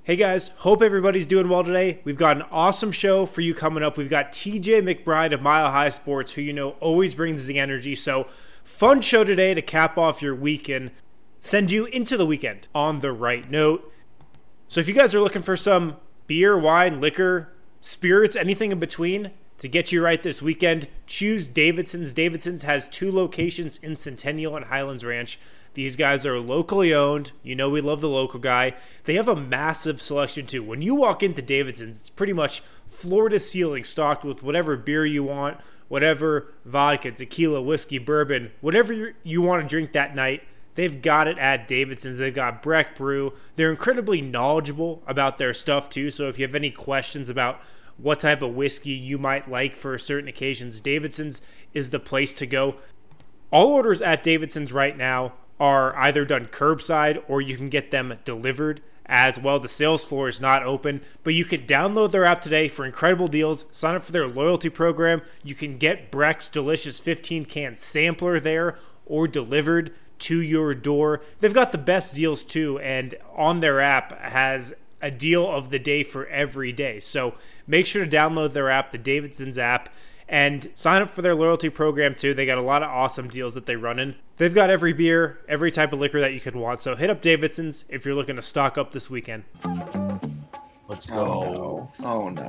Hey guys, hope everybody's doing well today. We've got an awesome show for you coming up. We've got TJ McBride of Mile High Sports, who you know always brings the energy. So, fun show today to cap off your week and send you into the weekend on the right note. So if you guys are looking for some beer, wine, liquor, spirits, anything in between to get you right this weekend, choose Davidson's. Davidson's has 2 locations in Centennial and Highlands Ranch. These guys are locally owned. You know we love the local guy. They have a massive selection too. When you walk into Davidson's, it's pretty much floor to ceiling stocked with whatever beer you want, whatever vodka, tequila, whiskey, bourbon, whatever you want to drink that night. They've got it at Davidson's. They've got Breck Brew. They're incredibly knowledgeable about their stuff too. So if you have any questions about what type of whiskey you might like for certain occasions, Davidson's is the place to go. All orders at Davidson's right now are either done curbside or you can get them delivered as well. The sales floor is not open, but you can download their app today for incredible deals. Sign up for their loyalty program. You can get Breck's delicious 15-can sampler there or delivered to your door. They've got the best deals too, and on their app has a deal of the day for every day. So make sure to download their app, the Davidson's app, and sign up for their loyalty program too. They got a lot of awesome deals that they run in. They've got every beer, every type of liquor that you could want. So hit up Davidson's if you're looking to stock up this weekend. Let's go. Oh no.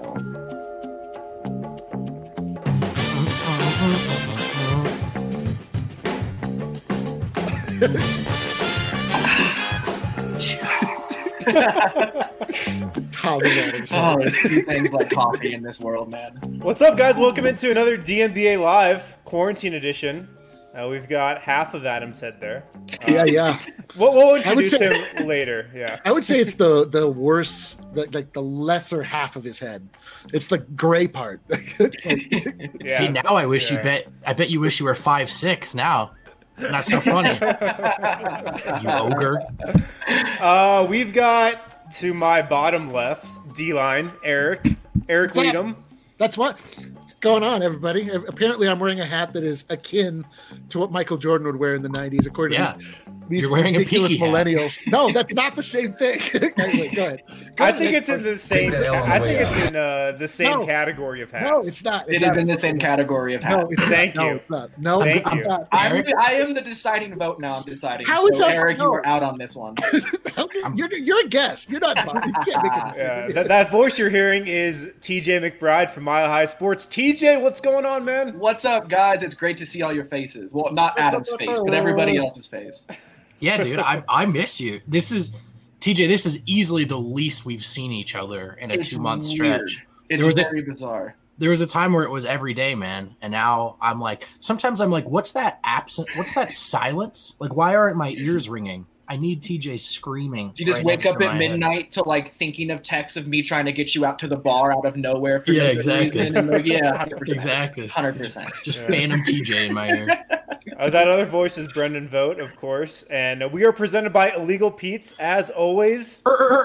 Tommy Adams. Oh, there's 2 things like coffee in this world, man. What's up, guys? Welcome into another DNBA Live Quarantine Edition. We've got half of Adam's head there. Yeah. We'll introduce him later. Yeah, I would say it's the worst, the lesser half of his head. It's the gray part. Yeah. See, now I wish I bet you wish you were 5'6" now. Not so funny. You ogre. We've got to my bottom left, D-line, Eric Weedham. That's what's going on, everybody. Apparently, I'm wearing a hat that is akin to what Michael Jordan would wear in the 90s, according to these You're wearing ridiculous a Peaky millennials. Hat. No, that's not the same thing. Anyway, go ahead. I think it's in the same. I think it's in the same category of hats. No, it's not. It is in the same category of hats. No, it's Thank not. you. No, it's not. No, Thank I'm you. not. I am the deciding vote now. I'm deciding. How is so, that? Eric, No. you are out on this one. You're a guest. You're not. You can't make a decision. Yeah, that voice you're hearing is TJ McBride from Mile High Sports. TJ, what's going on, man? What's up, guys? It's great to see all your faces. Well, not Adam's face, but everybody else's face. Yeah, dude, I miss you. This is easily the least we've seen each other in a 2-month stretch. It's very bizarre. There was a time where it was every day, man, and now I'm like, sometimes I'm like, what's that silence? Like, why aren't my ears ringing? I need TJ screaming. Do you just wake up at midnight to like thinking of texts of me trying to get you out to the bar out of nowhere for no exactly. reason? And like, 100%. Exactly. 100%. Just phantom TJ in my ear. That other voice is Brendan Vogt, of course, and we are presented by Illegal Pete's as always.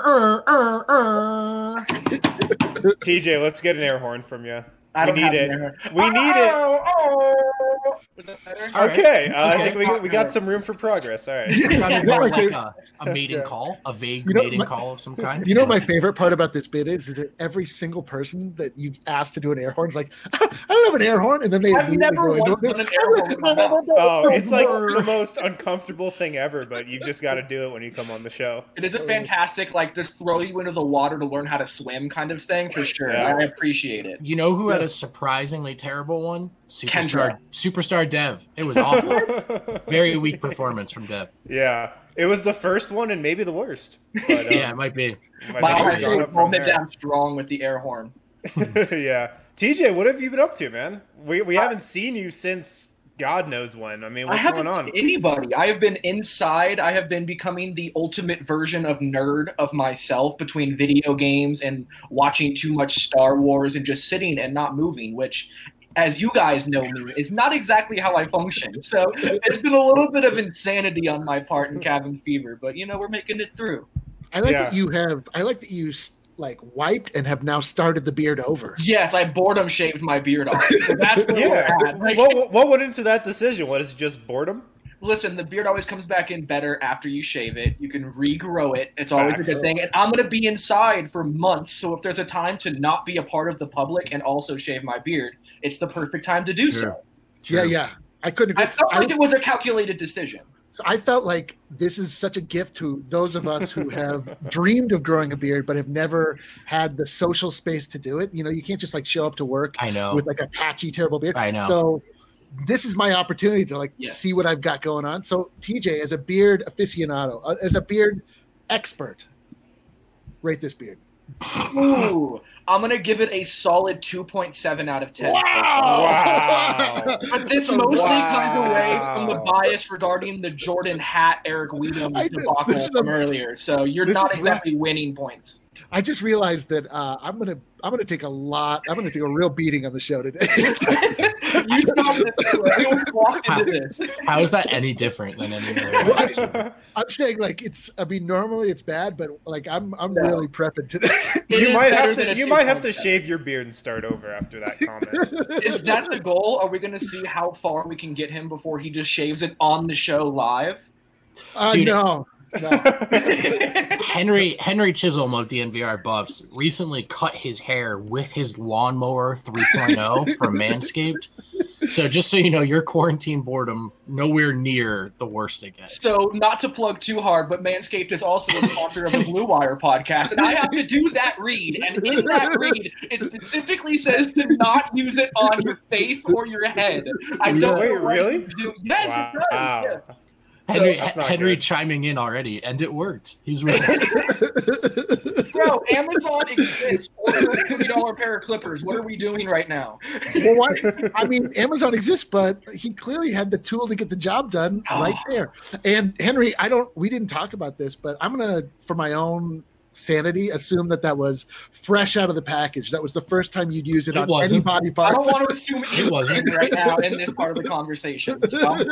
TJ, let's get an air horn from you. We need it. Was that better? Okay, I think we got some room for progress. All right. It sounded more like a mating call, a vague mating call of some kind. You know what my favorite part about this bit is that every single person that you ask to do an air horn is like, I don't have an air horn, and then they I've never once done an air horn. Oh, it's like the most uncomfortable thing ever, but you've just got to do it when you come on the show. It is a fantastic, like, just throw you into the water to learn how to swim kind of thing, for sure. Yeah. I appreciate it. You know who had a surprisingly terrible one? Kendra. Superstar Dev. It was awful. Very weak performance from Dev. Yeah, it was the first one and maybe the worst. But, Yeah, it might be. My think heart we're going up rolled from it there. down strong with the air horn. Yeah, TJ, what have you been up to, man? We haven't seen you since God knows when. I mean, what's going on? Anybody. I have been inside. I have been becoming the ultimate version of nerd of myself between video games and watching too much Star Wars and just sitting and not moving, which, as you guys know me, is not exactly how I function. So it's been a little bit of insanity on my part in cabin fever, but we're making it through. I like that you wiped and have now started the beard over. Yes, I boredom shaved my beard off. So that's where we're at. Like, What went into that decision? What is it, just boredom? Listen, the beard always comes back in better after you shave it. You can regrow it. It's always a good thing. And I'm going to be inside for months. So if there's a time to not be a part of the public and also shave my beard, it's the perfect time to do so. Yeah. I couldn't agree. I felt like it was a calculated decision. So I felt like this is such a gift to those of us who have dreamed of growing a beard, but have never had the social space to do it. You know, you can't just like show up to work with like a patchy, terrible beard. I know. So this is my opportunity to see what I've got going on. So TJ, as a beard aficionado, as a beard expert, rate this beard. Ooh, I'm going to give it a solid 2.7 out of 10. Wow. But this mostly comes away from the bias regarding the Jordan hat Eric Weedham debacle from earlier. So you're not exactly winning points. I just realized that I'm gonna take a real beating on the show today. You stopped it. You walked into this. How is that any different than any other? I'm saying like normally it's bad, but like I'm really prepping today. You might have to shave your beard and start over after that comment. Is that the goal? Are we going to see how far we can get him before he just shaves it on the show live? Dude, no. Henry Chisholm of the NVR Buffs recently cut his hair with his lawnmower 3.0 from Manscaped. So just so you know, your quarantine boredom nowhere near the worst it gets. So not to plug too hard, but Manscaped is also a sponsor of the Blue Wire podcast, and I have to do that read. And in that read, it specifically says to not use it on your face or your head. I don't Wait, know what really? to do. Yes, wow. it does. Yeah. Henry chiming in already, and it worked. He's really Bro, Amazon exists. Order a $50 pair of clippers. What are we doing right now? Well, what? I mean, Amazon exists, but he clearly had the tool to get the job done right there. And Henry, we didn't talk about this, but I'm gonna, for my own sanity, assume that was fresh out of the package. That was the first time you'd use it on any body part. I don't want to assume it wasn't right now in this part of the conversation.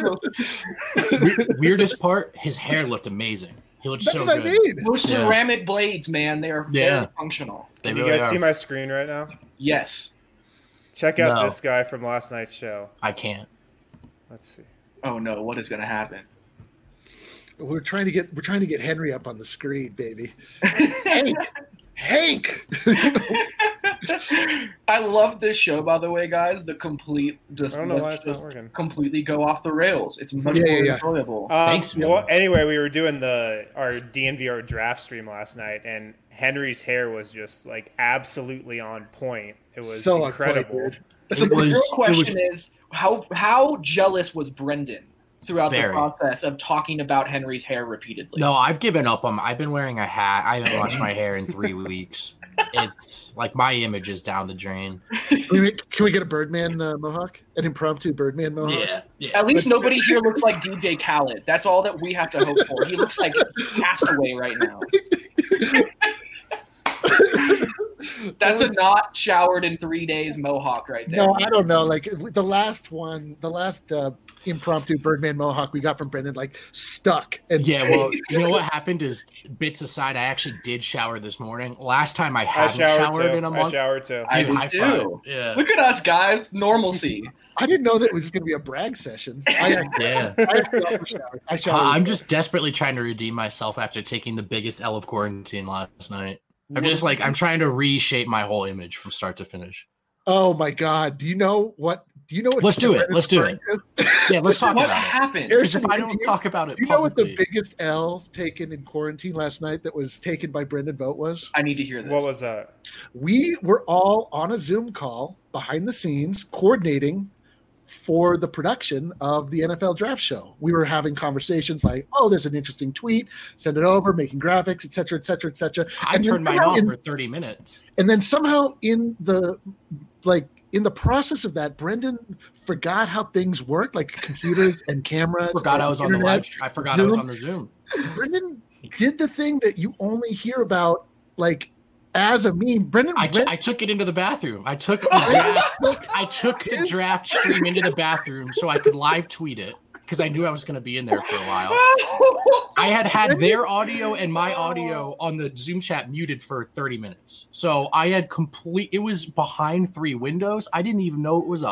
Weirdest part, his hair looked amazing. He looked so good. I mean. Those ceramic blades, man, they are very functional. Can you guys see my screen right now? Yes. Check out this guy from last night's show. I can't. Let's see. Oh no, what is going to happen? We're trying to get Henry up on the screen, baby. Hank. I love this show, by the way, guys. The complete I don't know why it's not working. Completely go off the rails. It's much more enjoyable. Thanks. Well, anyway, we were doing our DNVR draft stream last night, and Henry's hair was just like absolutely on point. It was so incredible. So the real question is, how jealous was Brendan throughout the process of talking about Henry's hair repeatedly? No, I've given up on. I've been wearing a hat. I haven't washed my hair in 3 weeks. It's like my image is down the drain. Can we get a Birdman mohawk? An impromptu Birdman mohawk? Yeah. At least nobody here looks like DJ Khaled. That's all that we have to hope for. He looks like Castaway right now. That's a not showered in 3 days mohawk right there. No, I don't know. Like the last impromptu Birdman mohawk we got from Brendan, like stuck. And well, you know what happened is, bits aside, I actually did shower this morning. Last time I hadn't showered in a month. I showered too. Dude, I did too. Yeah. Look at us, guys. Normalcy. I didn't know that it was going to be a brag session. I showered. I'm just desperately trying to redeem myself after taking the biggest L of quarantine last night. I'm trying to reshape my whole image from start to finish. Oh my God. Do you know what? Let's do it. Let's do it. Yeah, let's talk about it. What happened? Because if I don't talk about it do you know what the biggest L taken in quarantine last night that was taken by Brendan Vogt was? I need to hear this. What was that? We were all on a Zoom call behind the scenes coordinating for the production of the NFL draft show. We were having conversations like, oh, there's an interesting tweet, send it over, making graphics, et cetera, et cetera, et cetera. I turned mine off for 30 minutes. And then somehow in the process of that, Brendan forgot how things work, like computers and cameras. I forgot I was on the Zoom. Brendan did the thing that you only hear about, like, as a meme. Brendan, I took it into the bathroom. I took the draft stream into the bathroom so I could live tweet it, because I knew I was going to be in there for a while. I had their audio and my audio on the Zoom chat muted for 30 minutes. So I had it was behind 3 windows. I didn't even know it was up.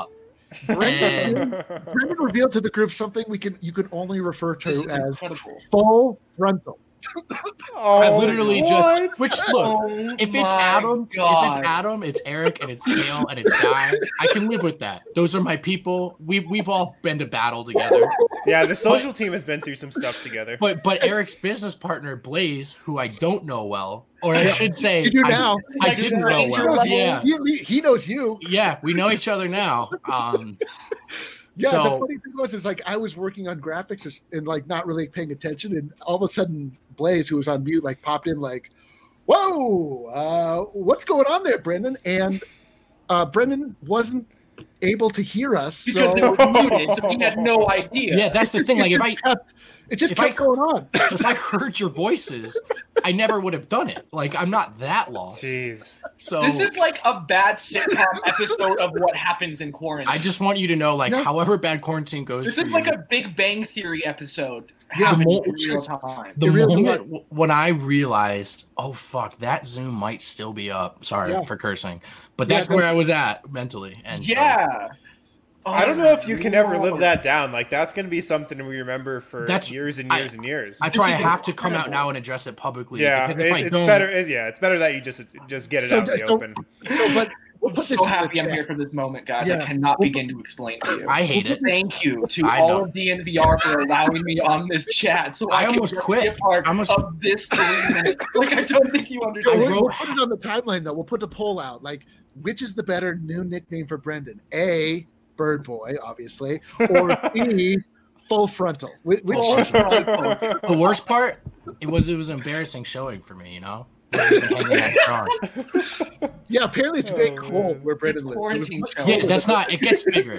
Brendan revealed to the group something you can only refer to as incredible. full frontal. I literally what? look, if it's Adam, it's Eric, and it's Kale, and it's Guy. I can live with that. Those are my people. We've all been to battle together. Yeah, the social team has been through some stuff together. But Eric's business partner Blaze, who I don't know well, or I should say, You do now. I didn't know well. Yeah, He knows you. yeah, we know each other now. Yeah, So- the funny thing was, is like I was working on graphics and like not really paying attention, and all of a sudden Blaze, who was on mute, like popped in, like, "Whoa, what's going on there, Brendan?" And Brendan wasn't able to hear us, Because so it was muted, so he had no idea. Yeah, that's the thing. Like it just if I- kept going on. if I heard your voices, I never would have done it. Like I'm not that lost. Jeez. So This is like a bad sitcom episode of what happens in quarantine. I just want you to know, like, No. however bad quarantine goes, This for is like you, a Big Bang Theory episode Yeah, happening in more- real time. the It really moment when I realized, oh fuck, that Zoom might still be up. Sorry Yeah. for cursing, but Yeah, that's no. where I was at mentally. And Yeah. I don't know if you can ever live that down. Like, that's going to be something we remember for That's- years and years and years. I try. I have to come out now and address it publicly. Yeah, because if I it's don't, better. It's better that you just get it out in the open. So, but we'll I'm put so this in happy the I'm chat. here for this moment, guys. Yeah. I cannot begin to explain to you. I hate it. Thank you to I all know. of DNVR for allowing me on this chat, so I I, can almost just quit. be a part I almost- of this 3 minutes. Like, I don't think you So understand. we'll put it on the timeline though. We'll put the poll out. Like, which is the better new nickname for Brendan? A, Bird Boy, obviously, or B, Full Frontal. Which the worst part, it was embarrassing showing for me. You know, Wasn't even hanging that strong. yeah, apparently it's very Oh, cold man. where Brendan It's lives. quarantine It was much show. Yeah, colder. that's not. It gets bigger.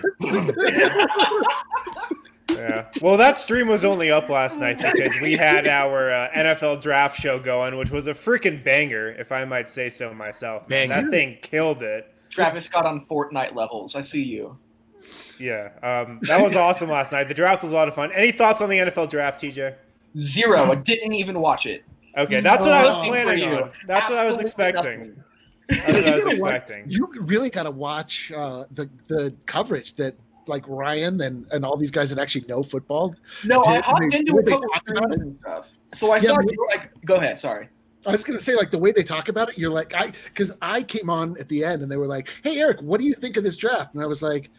Yeah. Well, that stream was only up last night because we had our NFL draft show going, which was a freaking banger, if I might say so myself. Man, Banger. that thing killed it. Travis Scott on Fortnite levels. I see you. Yeah. That was awesome last night. The draft was a lot of fun. Any thoughts on the NFL draft, TJ? 0. I didn't even watch it. Okay, that's what I was Nothing planning for you. on. That's what I was Absolutely expecting. nothing. That's what I was You know what? expecting. You really got to watch the coverage that like Ryan and all these guys that actually know football. No, I Did hopped they- into did a they couple talk about streams it? and stuff. So I Yeah, saw but- you like. Go ahead. Sorry. I was gonna say, like, the way they talk about it, you're like, because I came on at the end and they were like, "Hey, Eric, what do you think of this draft?" And I was like,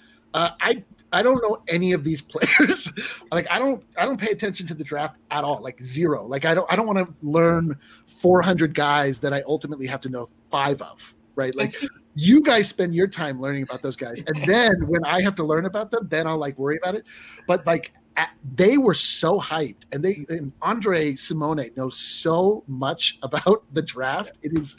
I don't know any of these players. Like, I don't pay attention to the draft at all. Like 0. Like I don't want to learn 400 guys that I ultimately have to know 5 of. Right? Like, you guys spend your time learning about those guys, and then when I have to learn about them, then I'll like worry about it. But like, they were so hyped, and Andre Simone knows so much about the draft.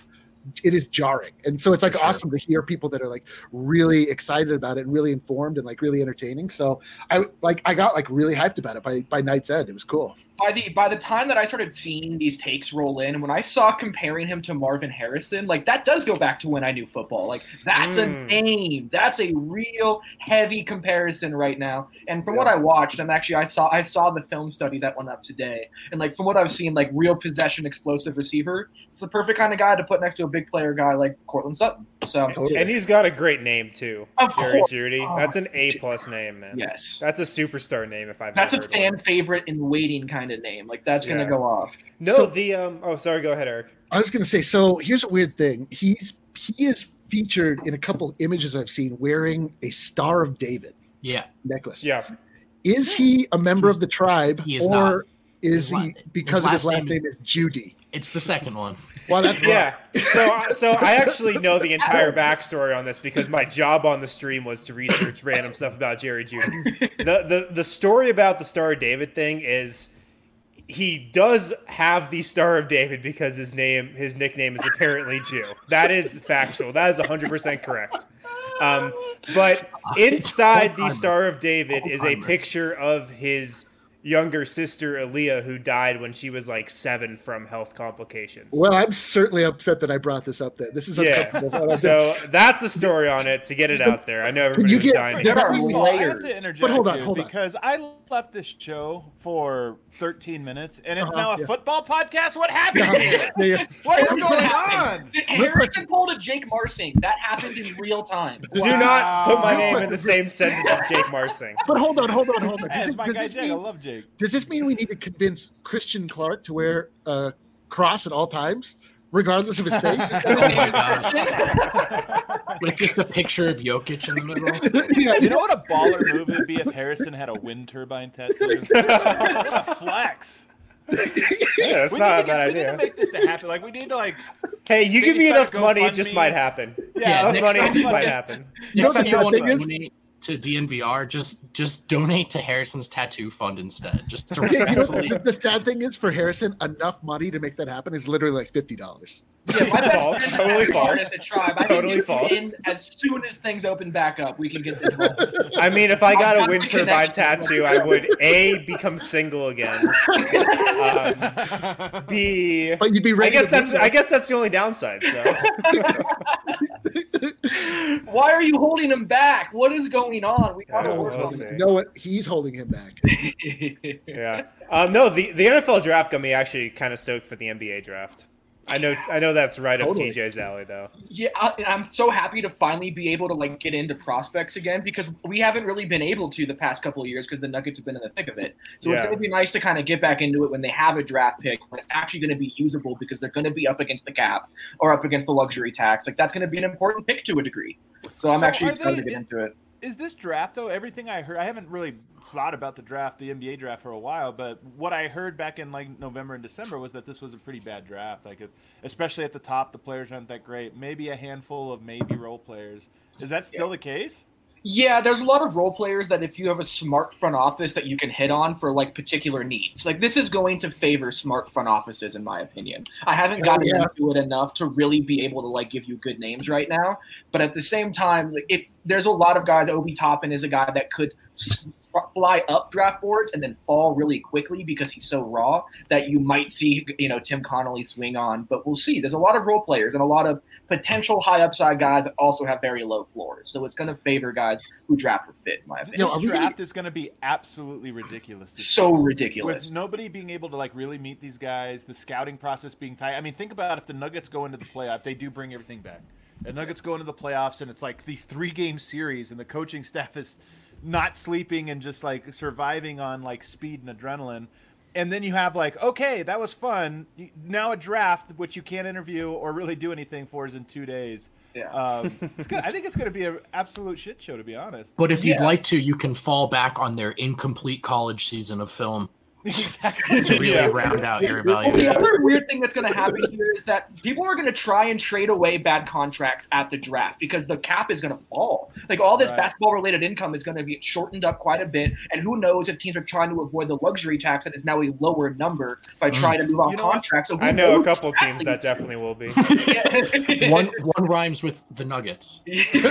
It is jarring, and so it's like For sure. awesome to hear people that are like really excited about it and really informed and like really entertaining. So I got like really hyped about it by night's end. It was cool. By the time that I started seeing these takes roll in, when I saw comparing him to Marvin Harrison, like that does go back to when I knew football. Like that's a name. That's a real heavy comparison right now. And from what I watched, and actually I saw the film study that went up today. And like from what I've seen, like real possession explosive receiver, it's the perfect kind of guy to put next to a big player guy like Cortland Sutton. So And he's got a great name too, Of Jerry course. Judy. Oh, That's an A+ name, man. yes. That's a superstar name if I've That's a ever heard fan one. favorite in waiting kind of name. Like that's gonna Yeah. go off. No, So- oh, sorry. Go ahead, Eric. I was going to say, so here's a weird thing. He is featured in a couple images I've seen wearing a Star of David Yeah, necklace. Yeah. Is he a member of the tribe, he is or not. is His la- he because of his last last name name is Judy? it's the second one. Well, that's Yeah. So I actually know the entire backstory on this because my job on the stream was to research random stuff about Jerry Judy. The story about the Star of David thing is he does have the Star of David because his nickname is apparently Jew. That is factual. That is 100% correct. But inside the Star of David is a picture of his younger sister Aaliyah, who died when she was like 7 from health complications. Well, I'm certainly upset that I brought this up there. This is uncomfortable. So that's the story on it, to get it out there. I know everybody you was get- dying. there to are hear. First of it. all, I have layers. to interject But hold on, here hold on. because I left this show for 13 minutes and it's Uh-huh, now a yeah. football podcast. What happened Yeah, here? yeah, yeah. What is What going happened? on? Did No, Harrison pulled a Jake Marsing. That happened in real time. Do not put my name in the same sentence as Jake Marsing. But hold on. That's my guy Jake. I love Jake. Does this mean we need to convince Christian Clark to wear a cross at all times, regardless of his faith? Oh my god! Like just a picture of Jokic in the middle. Yeah, You know what a baller move would be if Harrison had a wind turbine tattoo? What a flex. Yeah, that's not a bad We need idea. to make this to happen. Like we need to like. Hey, you give maybe me enough start money, it GoFundMe. just might happen. Yeah, Enough next money, it time just you might get- happen. Next know time the you bad want to thing is- donate to DNVR, just donate to Harrison's tattoo fund instead. Just You know, directly. the sad thing is for Harrison, enough money to make that happen is literally like $50. Yeah, my best False. friend Totally is false. at the tribe. I Totally think false. as soon as things open back up, we can get this rolling. I mean, if I got a That's wind the turbine connection. tattoo, I would A, become single again. B, But you'd be I ready. guess to that's be there. I guess that's the only downside. So Why are you holding him back? What is going on? We gotta Yeah, work we'll on see. You know what? He's holding him back. it. yeah. No, the NFL draft got me actually kind of stoked for the NBA draft. I know that's right Totally. up TJ's alley though. Yeah, I'm so happy to finally be able to like get into prospects again because we haven't really been able to the past couple of years because the Nuggets have been in the thick of it. So it's Yeah. going to be nice to kind of get back into it when they have a draft pick when it's actually going to be usable because they're going to be up against the cap or up against the luxury tax. Like that's going to be an important pick to a degree. So I'm So actually are excited to they- get into it. Is this draft though? Everything I heard, I haven't really thought about the draft, the NBA draft, for a while. But what I heard back in like November and December was that this was a pretty bad draft. Like, especially at the top, the players aren't that great. Maybe a handful of maybe role players. Is that still the case? Yeah, there's a lot of role players that if you have a smart front office that you can hit on for like particular needs. Like this is going to favor smart front offices in my opinion. I haven't gotten yeah. into it enough to really be able to like give you good names right now. But at the same time, like, if there's a lot of guys, Obi Toppin is a guy that could fly up draft boards and then fall really quickly because he's so raw that you might see, Tim Connolly swing on. But we'll see. There's a lot of role players and a lot of potential high upside guys that also have very low floors. So it's going to favor guys who draft for fit, in my opinion. Yo, are This we draft is going to be absolutely ridiculous. this So year. ridiculous. With nobody being able to like really meet these guys, the scouting process being tight. I mean, think about if the Nuggets go into the playoff, they do bring everything back. The Nuggets go into the playoffs, and it's like these 3-game series, and the coaching staff is not sleeping and just like surviving on like speed and adrenaline. And then you have like, okay, that was fun. Now a draft, which you can't interview or really do anything for, is in 2 days. Yeah. It's good. I think it's going to be an absolute shit show, to be honest. But if you'd Yeah. like to, you can fall back on their incomplete college season of film Exactly. to really Yeah. round out your Well, the evaluation. other weird thing that's going to happen here is that people are going to try and trade away bad contracts at the draft because the cap is going to fall. Like all this Right. basketball-related income is going to be shortened up quite a bit, and who knows if teams are trying to avoid the luxury tax that is now a lower number by trying to move on You know what? contracts. So who I know a knows couple exactly teams that definitely will be. One rhymes with the Nuggets.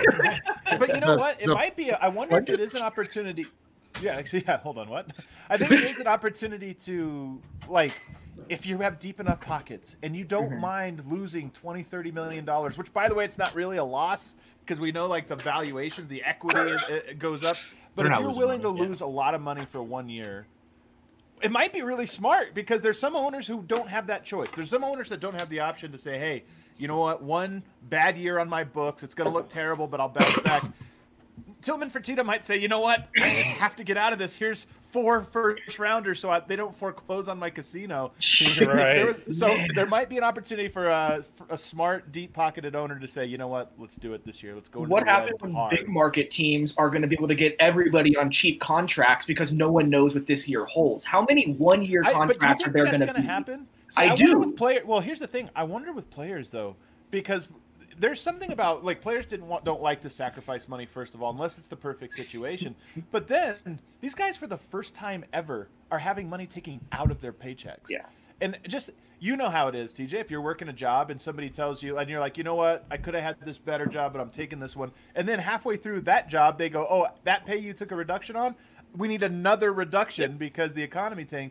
But you know what? It the- might be. I wonder if it is an opportunity. Yeah, actually, yeah. Hold on. What? I think it is an opportunity to like, if you have deep enough pockets and you don't Mm-hmm. mind losing $20-30 million, which by the way, it's not really a loss because we know like the valuations, the equity it goes up. But They're if not you're losing willing money, to yeah. lose a lot of money for 1 year, it might be really smart because there's some owners who don't have that choice. There's some owners that don't have the option to say, hey, you know what? One bad year on my books, it's going to look terrible, but I'll bounce back. Tillman Fertitta might say, you know what? I just have to get out of this. Here's 4 first-rounders so they don't foreclose on my casino. Right. So there might be an opportunity for a smart, deep-pocketed owner to say, you know what? Let's do it this year. Let's go into What the red happens when hard. big market teams are going to be able to get everybody on cheap contracts because no one knows what this year holds? How many one-year But do you contracts think are there that's going to going be? to happen? I wonder do. With well, here's the thing. I wonder with players though, because there's something about like players don't like to sacrifice money first of all, unless it's the perfect situation. But then these guys, for the first time ever, are having money taken out of their paychecks. Yeah. And just you know how it is, TJ. If you're working a job and somebody tells you, and you're like, you know what, I could have had this better job, but I'm taking this one. And then halfway through that job, they go, oh, that pay you took a reduction on. We need another reduction because the economy tanked.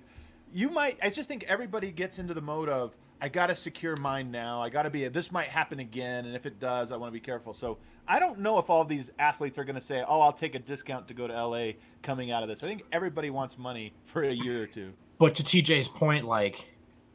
I just think everybody gets into the mode of, I got to secure mine now. I got to this might happen again. And if it does, I want to be careful. So I don't know if all of these athletes are going to say, oh, I'll take a discount to go to LA coming out of this. I think everybody wants money for a year or two. But to TJ's point, like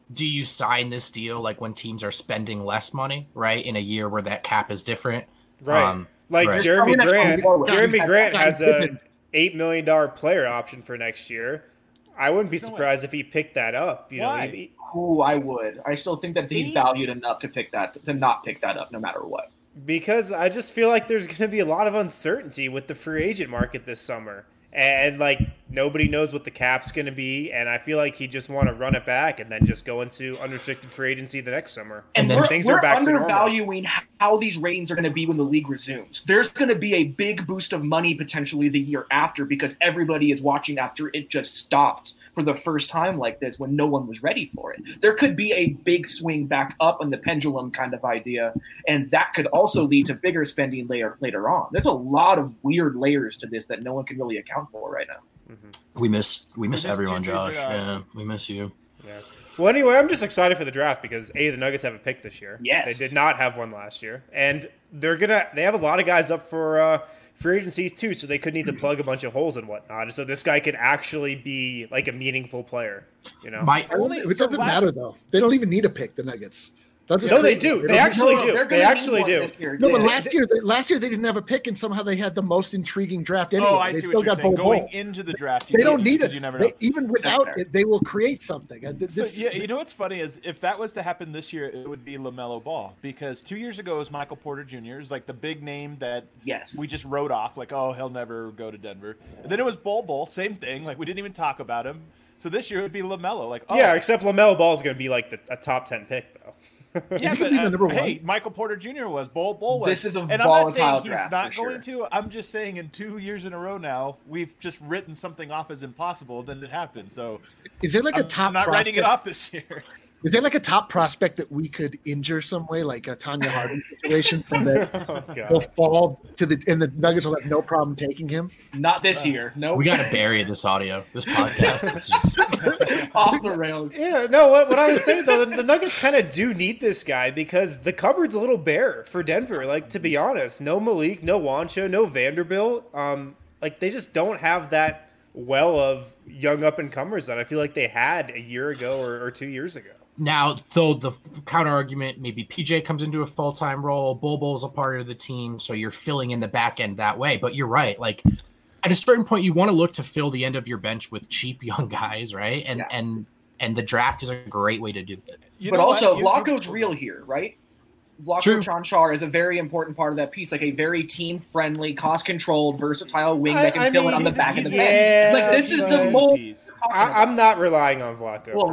do you sign this deal like when teams are spending less money, right? In a year where that cap is different. Right. Right. Jeremy Grant. Jeremy Grant Guys, has a $8 million player option for next year. I wouldn't be surprised if he picked that up. You know, Why? Ooh, I would. I still think that he's valued enough to not pick that up no matter what. because I just feel like there's going to be a lot of uncertainty with the free agent market this summer. And like nobody knows what the cap's going to be, and I feel like he just want to run it back and then just go into unrestricted free agency the next summer. And then we're undervaluing how these ratings are going to be when the league resumes. There's going to be a big boost of money potentially the year after because everybody is watching after it just stopped for the first time like this when no one was ready for it. There could be a big swing back up on the pendulum kind of idea, and that could also lead to bigger spending later on. There's a lot of weird layers to this that no one can really account for right now. Mm-hmm. We miss everyone, Josh. Yeah, we miss you. Yeah. Well, anyway, I'm just excited for the draft because the Nuggets have a pick this year. Yes, they did not have one last year, and they have a lot of guys up for free agencies too, so they could need to plug a bunch of holes and whatnot. So this guy could actually be like a meaningful player. You know, it doesn't matter though. They don't even need a pick. The Nuggets. No, they do. They actually do. They actually do. No, but last year they didn't have a pick, and somehow they had the most intriguing draft anyway. Oh, I they see still what you're got saying. Bol Going Bol. into the draft, they don't need it. You never know. Even without it, they will create something. You know what's funny is if that was to happen this year, it would be LaMelo Ball because 2 years ago it was Michael Porter Jr. It was like the big name that we just wrote off, like, oh, he'll never go to Denver. And then it was Bol, same thing. Like we didn't even talk about him. So this year it would be LaMelo. Like, oh. Yeah, except LaMelo Ball is going to be like a top 10 pick though. Yeah, but hey, Michael Porter Jr. was Bol was. This is a and volatile I'm not saying he's draft not for going to. I'm just saying in 2 years in a row now, we've just written something off as impossible, then it happened. So is there like a top? I'm not prospect? writing it off this year. Is there like a top prospect that we could injure some way, like a Tanya Harding situation, from that he'll fall to and the Nuggets will have no problem taking him? Not this year. No, we got to bury this audio. This podcast is just off the rails. Yeah, no. What I was saying though, the Nuggets kind of do need this guy because the cupboard's a little bare for Denver. Like to be honest, no Malik, no Juancho, no Vanderbilt. Like they just don't have that well of young up and comers that I feel like they had a year ago or 2 years ago. Now, though, the counter argument, maybe PJ comes into a full-time role, Bol's a part of the team, so you're filling in the back end that way. But you're right. Like, at a certain point, you want to look to fill the end of your bench with cheap young guys, right? And the draft is a great way to do it. But also, Vlatko's real here, right? Vlatko Cancar is a very important part of that piece, like a very team-friendly, cost-controlled, versatile wing that can fill it on the back of the bench. Like, this is the mold. I'm not relying on Vlatko. Well,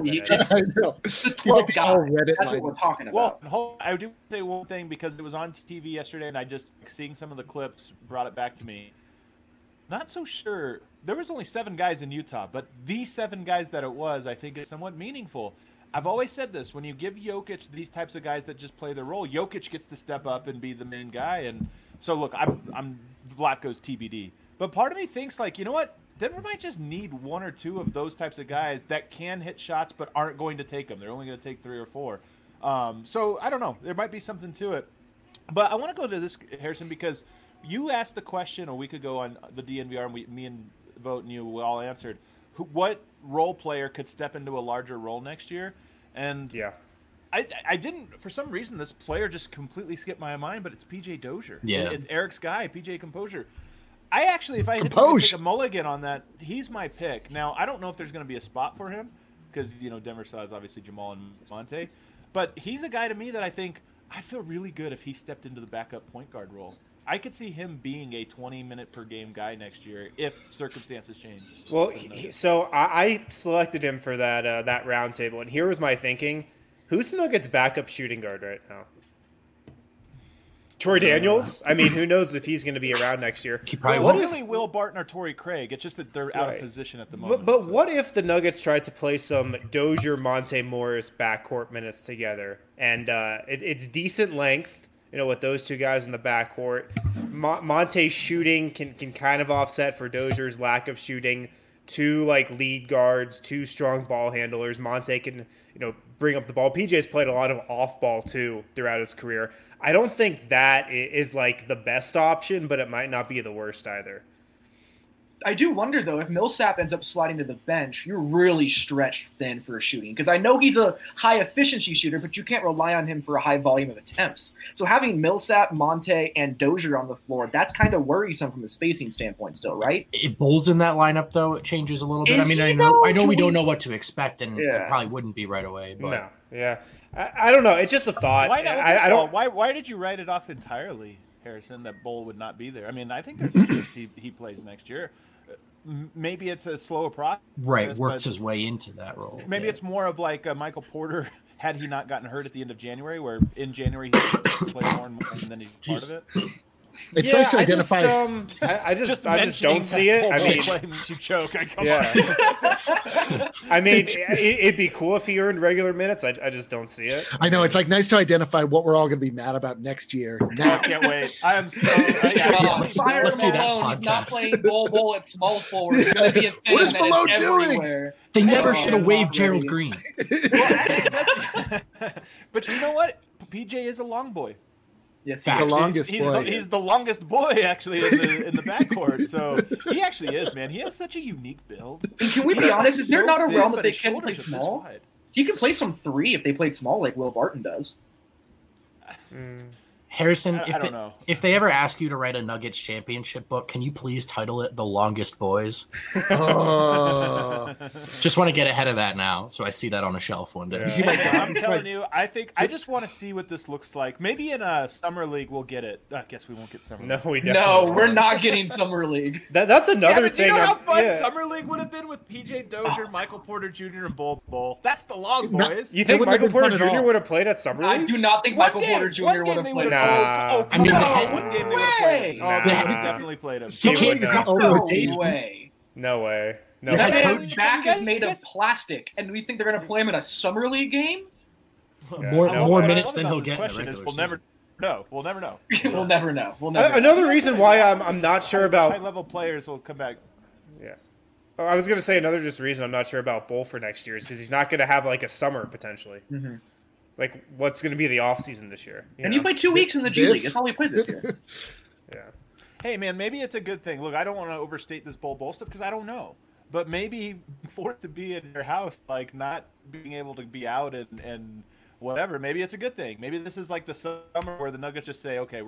the 12 guy. That's what we're talking about. Well, I do say one thing because it was on TV yesterday, and I just seeing some of the clips brought it back to me. Not so sure. There was only 7 guys in Utah, but these 7 guys that it was, I think, is somewhat meaningful. I've always said this, when you give Jokic these types of guys that just play their role, Jokic gets to step up and be the main guy. And so, look, I'm Vlatko's TBD. But part of me thinks, like, you know what? Denver might just need 1 or 2 of those types of guys that can hit shots but aren't going to take them. They're only going to take 3 or 4. So, I don't know. There might be something to it. But I want to go to this, Harrison, because you asked the question a week ago on the DNVR, and me and Vogt and you we all answered. What role player could step into a larger role next year? And I didn't, for some reason, this player just completely skipped my mind, but it's PJ Dozier. Yeah. It's Eric's guy, PJ Composure. I actually, if I had to take a mulligan on that, he's my pick. Now, I don't know if there's going to be a spot for him because, Denver still has obviously Jamal and Monte. But he's a guy to me that I think I'd feel really good if he stepped into the backup point guard role. I could see him being a 20-minute-per-game guy next year if circumstances change. Well, so I selected him for that round table, and here was my thinking. Who's the Nuggets' backup shooting guard right now? Troy Daniels? I mean, who knows if he's going to be around next year. He probably won't. Really, Will Barton or Torrey Craig. It's just that they're out of position at the moment. But what if the Nuggets tried to play some Dozier, Monte Morris backcourt minutes together? And it's decent length. With those 2 guys in the backcourt, Monte's shooting can kind of offset for Dozier's lack of shooting. 2 lead guards, 2 strong ball handlers. Monte can bring up the ball. PJ's played a lot of off ball too throughout his career. I don't think that is the best option, but it might not be the worst either. I do wonder, though, if Millsap ends up sliding to the bench, you're really stretched thin for shooting. Because I know he's a high-efficiency shooter, but you can't rely on him for a high volume of attempts. So having Millsap, Monte, and Dozier on the floor, that's kind of worrisome from a spacing standpoint still, right? If Bull's in that lineup, though, it changes a little bit. Is I he, though? know we don't know what to expect, and Yeah. it probably wouldn't be right away. But. No, yeah. I don't know. It's just a thought. Why not? I don't. Why did you write it off entirely, Harrison, that Bull would not be there? I mean, I think there's a chance he plays next year. Maybe it's a slower process. Right, works his way into that role. Maybe it's more of like Michael Porter had he not gotten hurt at the end of January, where in January he played more and then he's part of it. It's nice to identify. I just don't see it. I mean, you choke. I mean, it'd be cool if he earned regular minutes. I just don't see it. I know it's like nice to identify what we're all going to be mad about next year. Now, I can't wait. I am so. Let's do that Malone, he's not podcast. playing Bull at small forward. It's going to be a thing What is that Malone is doing? everywhere. They never Oh, should have I'm waived not Gerald ready. Green. But you know what? PJ is a long boy. Yes, The he is. longest boy. He's the longest boy actually in the backcourt. So he actually is, man. He has such a unique build. And can we be honest? Is there So not a thin, realm but that they his can play shoulders are this small? wide. He can play some 3 if they played small like Will Barton does. Harrison, I don't know. if they ever ask you to write a Nuggets championship book, can you please title it The Longest Boys? oh, Just want to get ahead of that now, so I see that on a shelf one day. Yeah. you see my I'm telling you, I just want to see what this looks like. Maybe in a summer league we'll get it. I guess we won't get summer. No, League. we No, definitely. we're not getting Summer League. That's Yeah, another but do you thing. know how I'm- fun yeah. summer league would have been with PJ Dozier, Michael Porter Jr., and Bull? That's the long No, boys. You think wouldn't have Michael been Porter fun at Jr. all. would have played at Summer I League? do not think Michael Porter Jr. would have played. Nah. I mean, one they- game they would have played him. Nah. Oh, they would have definitely played him. He can't- would not. Oh, No rotation. way. No way. No Yeah, That way. coach- man's back you guys- is made you of guys- plastic, and we think they're going to play him in a Summer League game? Yeah, more no more way. minutes What than about he'll this get in the question is regular we'll season. never know. We'll never know. We'll never know. We'll never know. Another reason why I'm not sure about. High-level players will come back. Yeah. Oh, I was going to say another just reason I'm not sure about Bull for next year is because he's not going to have like a summer potentially. Mhm. Like, what's going to be the offseason this year? And know? you played 2 weeks in the G This- League. That's all we played this year. Yeah. Hey, man, maybe it's a good thing. Look, I don't want to overstate this Bull stuff because I don't know. But maybe for it to be in your house, like not being able to be out and whatever, maybe it's a good thing. Maybe this is like the summer where the Nuggets just say, okay,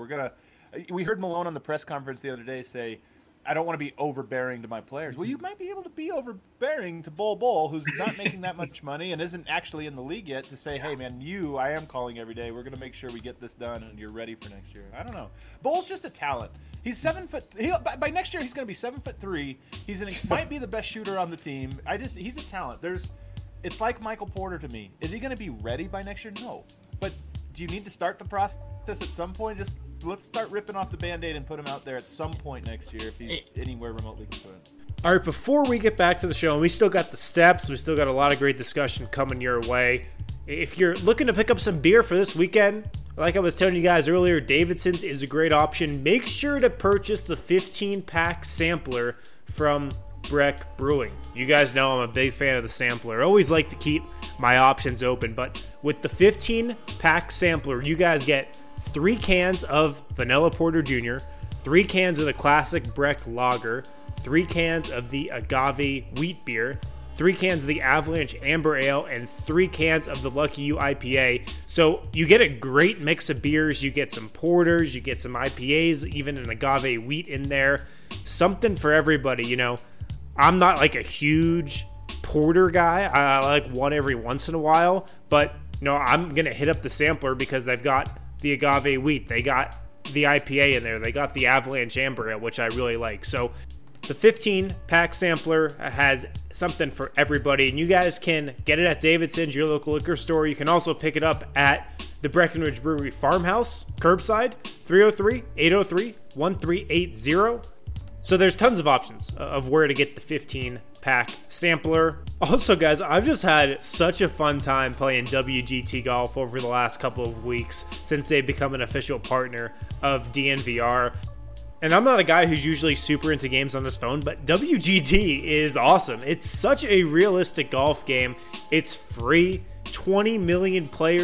we heard Malone on the press conference the other day say, I don't want to be overbearing to my players. Well, you might be able to be overbearing to Bull, who's not making that much money and isn't actually in the league yet, to say, hey, man, I am calling every day. We're going to make sure we get this done and you're ready for next year. I don't know. Bull's just a talent. He's 7 foot. By next year, he's going to be 7'3". Might be the best shooter on the team. He's a talent. It's like Michael Porter to me. Is he going to be ready by next year? No. But do you need to start the process at some point? Just let's start ripping off the Band-Aid and put him out there at some point next year if he's anywhere remotely concerned. All right, before we get back to the show, and we still got the steps, we still got a lot of great discussion coming your way. If you're looking to pick up some beer for this weekend, like I was telling you guys earlier, Davidson's is a great option. Make sure to purchase the 15-pack sampler from Breck Brewing. You guys know I'm a big fan of the sampler. I always like to keep my options open, but with the 15-pack sampler, you guys get 3 cans of Vanilla Porter Jr., 3 cans of the classic Breck Lager, 3 cans of the Agave Wheat Beer, 3 cans of the Avalanche Amber Ale, and 3 cans of the Lucky You IPA. So you get a great mix of beers. You get some porters, you get some IPAs, even an agave wheat in there. Something for everybody, you know. I'm not like a huge porter guy. I like one every once in a while, but you know, I'm going to hit up the sampler because they've got the agave wheat. They got the IPA in there. They got the Avalanche Amber Ale, which I really like. So the 15-pack sampler has something for everybody, and you guys can get it at Davidson's, your local liquor store. You can also pick it up at the Breckenridge Brewery Farmhouse, curbside, 303-803-1380. So there's tons of options of where to get the 15-pack sampler. Also, guys, I've just had such a fun time playing WGT Golf over the last couple of weeks since they've become an official partner of DNVR. And I'm not a guy who's usually super into games on his phone, but WGT is awesome. It's such a realistic golf game. It's free. 20 million players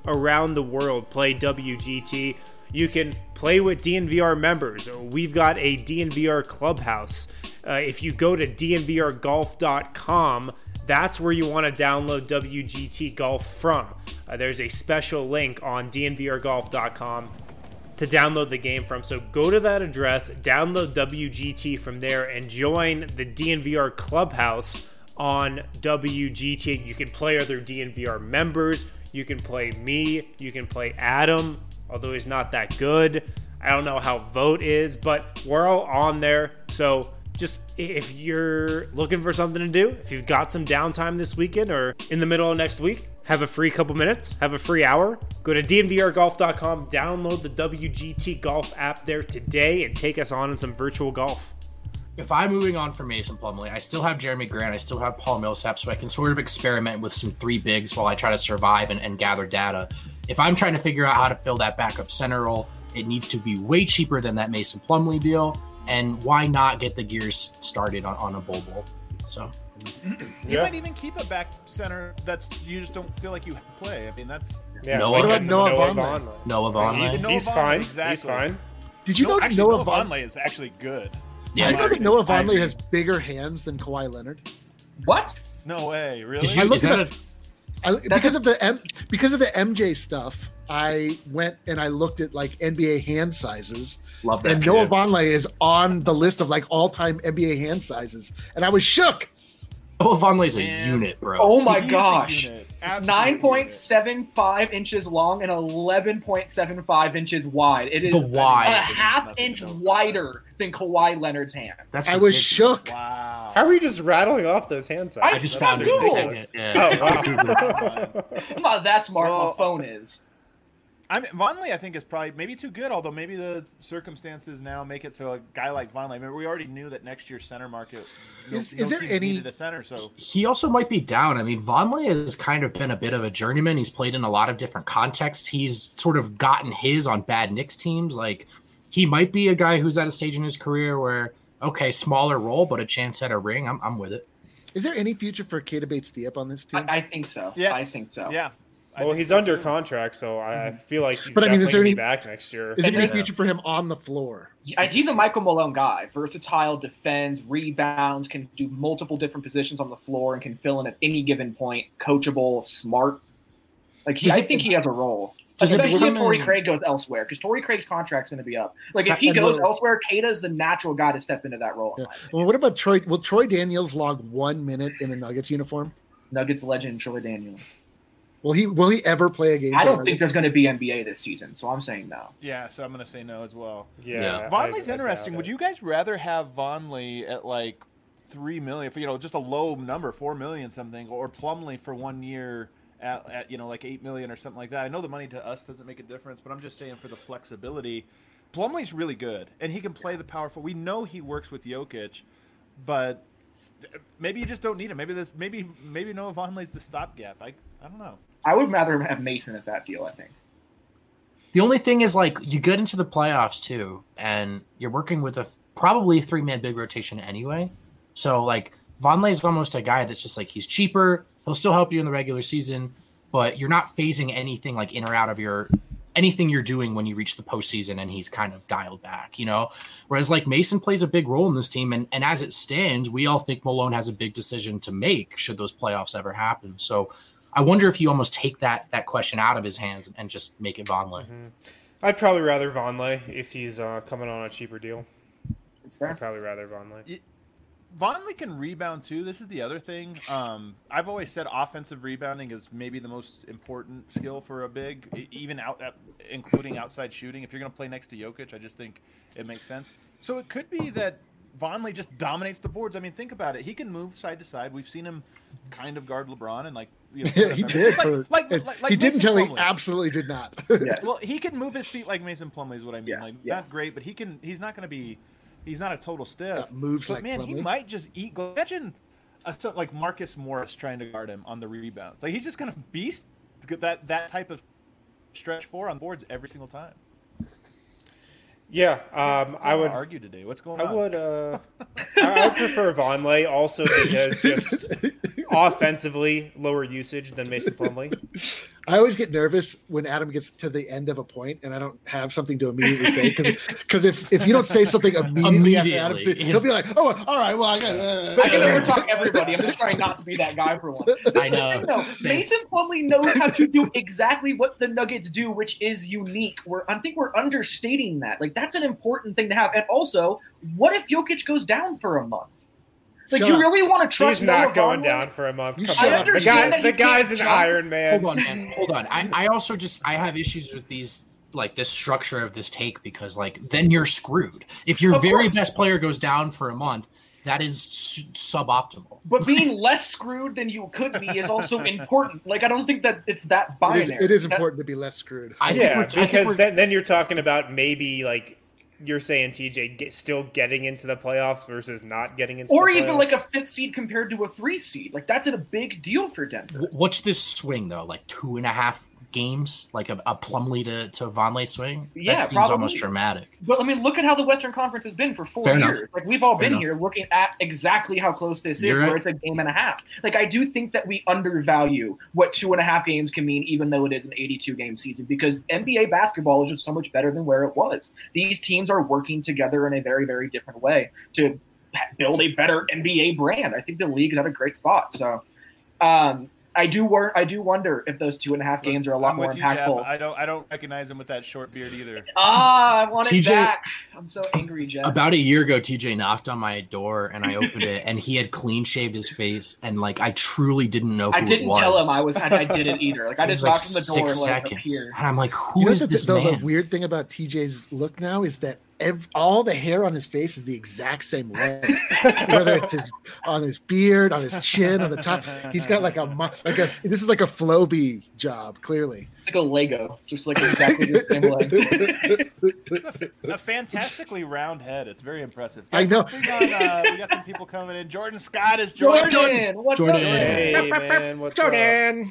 around the world play WGT. You can play with DNVR members. We've got a DNVR clubhouse. If you go to dnvrgolf.com, that's where you want to download WGT Golf from. There's a special link on dnvrgolf.com to download the game from. So go to that address, download WGT from there, and join the DNVR clubhouse on WGT. You can play other DNVR members. You can play me. You can play Adam, although he's not that good. I don't know how Vote is, but we're all on there. So just if you're looking for something to do, if you've got some downtime this weekend or in the middle of next week, have a free couple minutes, have a free hour, go to dnvrgolf.com, download the WGT Golf app there today, and take us on in some virtual golf. If I'm moving on from Mason Plumlee, I still have Jeremy Grant, I still have Paul Millsap, so I can sort of experiment with some three bigs while I try to survive and gather data. If I'm trying to figure out how to fill that backup center role, it needs to be way cheaper than that Mason Plumlee deal, and why not get the gears started on a Bobo? So you might even keep a back center that you just don't feel like you play. I mean, that's What about Noah Vonleh? Noah Vonleh. He's fine. Exactly. He's fine. Did you know Noah Vonleh is actually good? Did you know that Noah Vonleh has bigger hands than Kawhi Leonard? What? No way, really? Because of the MJ stuff, I went and I looked at like NBA hand sizes. Love that. And Noah Vonleh is on the list of like all-time NBA hand sizes, and I was shook. Noah Vonleh's a unit, bro. Oh my gosh. 9.75 inches long and 11.75 inches wide. It is wide. a half-inch wider than Kawhi Leonard's hand. I was shook. Wow. How are you just rattling off those hand sizes? I just found it in a second. Yeah. Oh, wow. I'm not that smart. My phone is. Vonleh, I think, is probably maybe too good, although maybe the circumstances now make it so a guy like Vonleh, I mean, we already knew that next year's center market is there any needed a center, so he also might be down. I mean, Vonleh has kind of been a bit of a journeyman. He's played in a lot of different contexts. He's sort of gotten his on bad Knicks teams. Like, he might be a guy who's at a stage in his career where, okay, smaller role, but a chance at a ring. I'm with it. Is there any future for Keita Bates-Diop on this team? I think so. Yes. I think so. Yeah. Well, he's under contract, so I feel like he's But I mean, definitely is there going to any- be back next year. Is there any future for him on the floor? He's a Michael Malone guy. Versatile, defends, rebounds, can do multiple different positions on the floor, and can fill in at any given point. Coachable, smart. I think he has a role. Especially if Torrey Craig goes elsewhere, because Torrey Craig's contract's going to be up. Like, if he goes elsewhere, Keita is the natural guy to step into that role. Yeah. Well, what about Troy? Will Troy Daniels log 1 minute in a Nuggets uniform? Nuggets legend Troy Daniels. Will he ever play a game? I don't think there's going to be NBA this season, so I'm saying no. Yeah, so I'm going to say no as well. Yeah. Vonleh's interesting. Would you guys rather have Vonleh at like $3 million, for, just a low number, $4 million something, or Plumlee for 1 year at like $8 million or something like that? I know the money to us doesn't make a difference, but I'm just saying for the flexibility, Plumlee's really good and he can play the powerful. We know he works with Jokic, but maybe you just don't need him. Maybe Noah Vonleh's the stopgap. I don't know. I would rather have Mason at that deal, I think. The only thing is, like, you get into the playoffs too, and you're working with probably a 3-man big rotation anyway. So, like, Vonleh is almost a guy that's just like, he's cheaper. He'll still help you in the regular season, but you're not phasing anything like in or out of anything you're doing when you reach the postseason and he's kind of dialed back, Whereas, like, Mason plays a big role in this team, and as it stands, we all think Malone has a big decision to make should those playoffs ever happen. So I wonder if you almost take that question out of his hands and just make it Vonleh. Mm-hmm. I'd probably rather Vonleh if he's coming on a cheaper deal. It's fair. I'd probably rather Vonleh. Vonleh can rebound too. This is the other thing. I've always said offensive rebounding is maybe the most important skill for a big, even including outside shooting. If you're going to play next to Jokic, I just think it makes sense. So it could be that Vonleh just dominates the boards. I mean, think about it. He can move side to side. We've seen him kind of guard LeBron and he did. He didn't until he absolutely did not. Yes. Well, he can move his feet like Mason Plumlee is what I mean. Not great, but he can. He's not going to be. He's not a total stiff. Moves but like man, Plumlee. he might just eat. Imagine like Marcus Morris trying to guard him on the rebound. Like, he's just going to beast that type of stretch 4 on boards every single time. Yeah, I would argue today. What's going on? I would. I prefer Vonleh also because just offensively lower usage than Mason Plumlee. I always get nervous when Adam gets to the end of a point and I don't have something to immediately say. Because if you don't say something immediately after Adam, he'll be like, "Oh, all right, well, I can never talk everybody. I'm just trying not to be that guy for once. I know. Mason Plumlee knows how to do exactly what the Nuggets do, which is unique. I think we're understating that. Like, that's an important thing to have. And also, what if Jokic goes down for a month? Like, you really want to trust? He's not going down for a month. The guy's an Iron Man. Hold on, man. Hold on. I also I have issues with these, like, this structure of this take, because, like, then you're screwed. If your very best player goes down for a month, that is suboptimal. But being less screwed than you could be is also important. Like, I don't think that it's that binary. It is important to be less screwed. Because then you're talking about maybe, like, you're saying TJ still getting into the playoffs versus not getting into the playoffs. Or even like a 5th seed compared to a 3 seed. Like, that's a big deal for Denver. What's this swing, though? Like 2.5 games? Like a Plumlee to Vonleh swing? Yeah, that seems almost dramatic. But, I mean, look at how the Western Conference has been for 4 years. Like, we've all been here looking at exactly how close this is, where it's a game and a half. Like, I do think that we undervalue what 2.5 games can mean, even though it is an 82-game season, because NBA basketball is just so much better than where it was. These teams are working together in a very, very different way to build a better NBA brand. I think the league is at a great spot. So, I do wonder if those 2.5 games are a lot more impactful. Jeff. I don't recognize him with that short beard either. I want it back. I'm so angry, Jeff. About a year ago, TJ knocked on my door and I opened it, and he had clean shaved his face, and like I truly didn't know who it was. I didn't tell him I didn't either. Like I just knocked on the door 6 and seconds, and I'm like, who is this man? The weird thing about TJ's look now is that all the hair on his face is the exact same length. Whether it's on his beard, on his chin, on the top, he's got this is like a Floby job. Clearly, it's like a Lego, just like exactly the same length. A fantastically round head. It's very impressive. Guys, I know. We got some people coming in. Jordan Scott is joining. Jordan, what's up? Hey man, what's Jordan.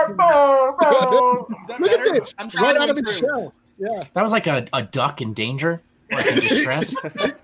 up? Look at this. I'm right out of his shell. Yeah, that was like a duck in danger. Like in distress.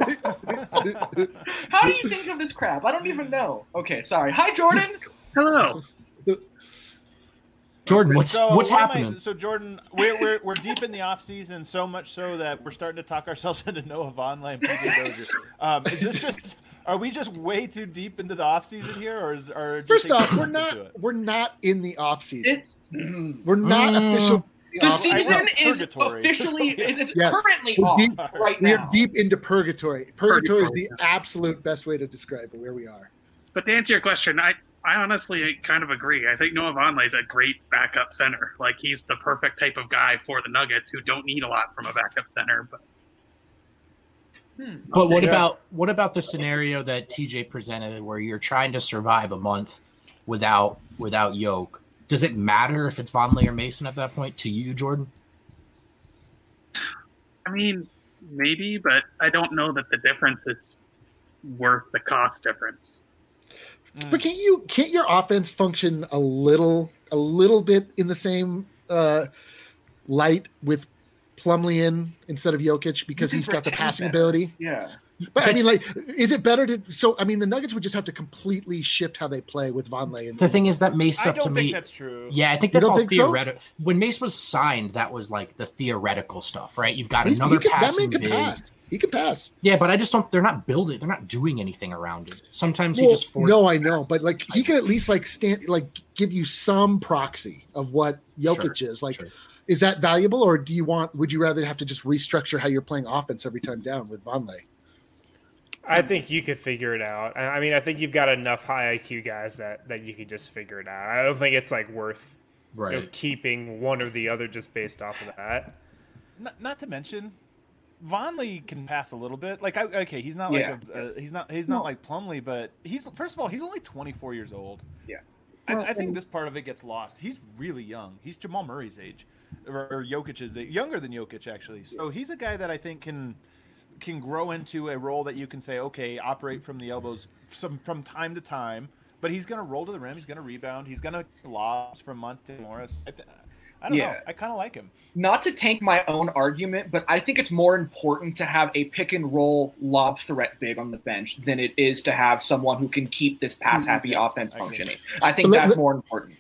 How do you think of this crap? I don't even know. Okay, sorry. Hi, Jordan. Hello. Jordan, what's happening? So Jordan, we're deep in the off season, so much so that we're starting to talk ourselves into Noah Vonleh and PJ Dozier. Is this just? Are we just way too deep into the off season here, or first off, we're not in the off season. We're not official. The season is officially currently off right now. We are deep into purgatory. Purgatory is the absolute best way to describe where we are. But to answer your question, I honestly kind of agree. I think Noah Vonleh is a great backup center. Like, he's the perfect type of guy for the Nuggets, who don't need a lot from a backup center. But what about the scenario that TJ presented, where you're trying to survive a month without Yoke? Does it matter if it's Vonleh or Mason at that point to you, Jordan? I mean, maybe, but I don't know that the difference is worth the cost difference. But can't your offense function a little bit in the same light with Plumlee instead of Jokic, because he's got the passing ability? Yeah. But I mean, like, is it better to? So I mean, the Nuggets would just have to completely shift how they play with Vonleh. The thing is that Mace stuff to me. I don't think that's true. Yeah, I think that's all theoretical. So? When Mace was signed, that was like the theoretical stuff, right? You've got another passing big. He can pass. Yeah, but I just don't. They're not building. They're not doing anything around it. Sometimes he just forces. No, I know, but like he can at least give you some proxy of what Jokic is. Like, is that valuable, or would you rather have to just restructure how you're playing offense every time down with Vonleh? I think you could figure it out. I mean, I think you've got enough high IQ guys that you could just figure it out. I don't think it's like worth keeping one or the other just based off of that. Not to mention, Vonleh can pass a little bit. Like, he's not he's not like Plumlee, but he's only 24 years old. Yeah, I think this part of it gets lost. He's really young. He's Jamal Murray's age, or Jokic's age, younger than Jokic actually. So he's a guy that I think can grow into a role that you can say, okay, operate from the elbows from time to time, but he's going to roll to the rim. He's going to rebound. He's going to lobs from Monte Morris. I don't know. I kind of like him. Not to tank my own argument, but I think it's more important to have a pick and roll lob threat big on the bench than it is to have someone who can keep this pass happy offense functioning. I think that's more important.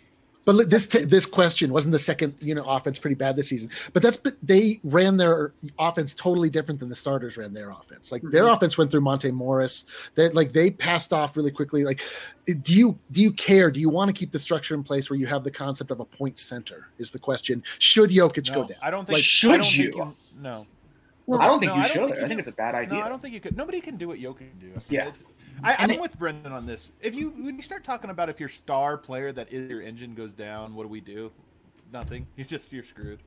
But this question wasn't the second offense pretty bad this season. But they ran their offense totally different than the starters ran their offense. Like their offense went through Monte Morris. They passed off really quickly. Like, do you care? Do you want to keep the structure in place where you have the concept of a point center? Is the question. Should Jokic go down? I don't think. Like, should you? No. I don't think you should. I think it's a bad idea. No, I don't think you could. Nobody can do what Jokic can do. Yeah. I'm with Brendan on this. When you start talking about if your star player that is your engine goes down, what do we do? Nothing. You're screwed.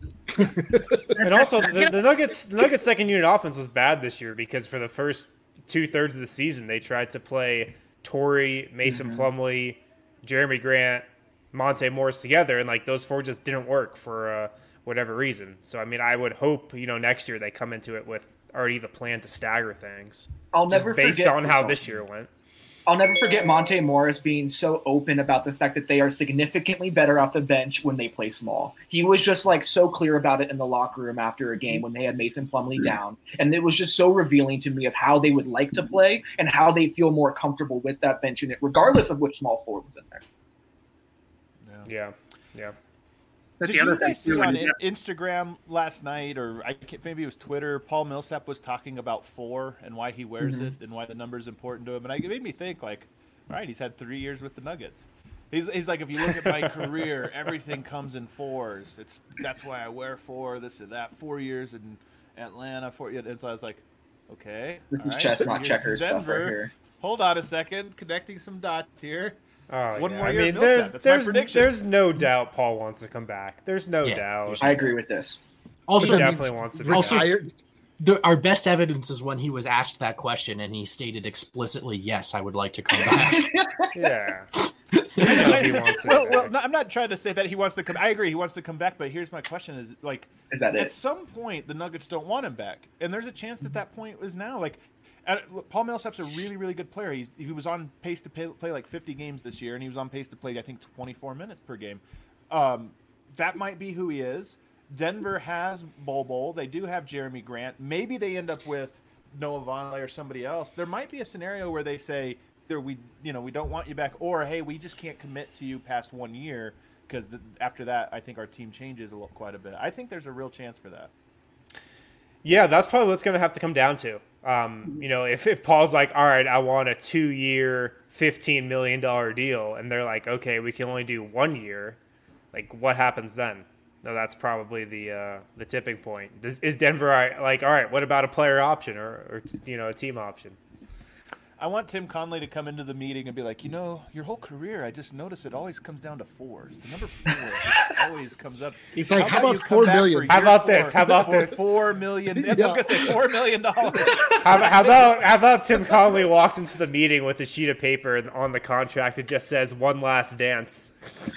And also, the Nuggets' second unit offense was bad this year because for the first 2/3 of the season, they tried to play Torrey, Mason Plumlee, Jeremy Grant, Monte Morris together, and like those four just didn't work for whatever reason. So I mean, I would hope next year they come into it with already the plan to stagger things. I'll never based forget on how this year went. I'll never forget Monte Morris being so open about the fact that they are significantly better off the bench when they play small. He was just like so clear about it in the locker room after a game when they had Mason Plumlee down. And it was just so revealing to me of how they would like to play and how they feel more comfortable with that bench unit, regardless of which small forward was in there. Yeah. Did you guys see on Instagram last night, or maybe it was Twitter, Paul Millsap was talking about 4 and why he wears it and why the number is important to him. And it made me think, like, all right, he's had 3 years with the Nuggets. He's like, if you look at my career, everything comes in 4s. That's why I wear 4, this or that. 4 years in Atlanta, 4. And so I was like, okay. This is chestnut checkers stuff right here. Hold on a second, connecting some dots here. Oh, One more year. There's no doubt Paul wants to come back. There's no doubt. I agree with this. Also, he definitely wants to be back. Our best evidence is when he was asked that question and he stated explicitly, "Yes, I would like to come back." Yeah. He wants to I'm not trying to say that he wants to come. I agree, he wants to come back. But here's my question: is that at some point the Nuggets don't want him back, and there's a chance that point is now. Like, Paul Millsap's a really, really good player. He was on pace to play like 50 games this year, and he was on pace to play, I think, 24 minutes per game. That might be who he is. Denver has Bol. They do have Jeremy Grant. Maybe they end up with Noah Vonleh or somebody else. There might be a scenario where they say, we don't want you back, or hey, we just can't commit to you past 1 year because after that, I think our team changes quite a bit. I think there's a real chance for that. Yeah, that's probably what's going to have to come down to. If Paul's like, all right, I want a 2-year, $15 million deal, and they're like, okay, we can only do 1 year, like, what happens then? No, that's probably the tipping point. Is Denver like, all right, what about a player option or a team option? I want Tim Conley to come into the meeting and be like, your whole career, I just noticed it always comes down to 4s. The number 4 just always comes up. He's like, how about $4 million? How about this? How about this? $4 million. I was going to say $4 million. How about Tim Conley walks into the meeting with a sheet of paper and on the contract it just says "One Last Dance."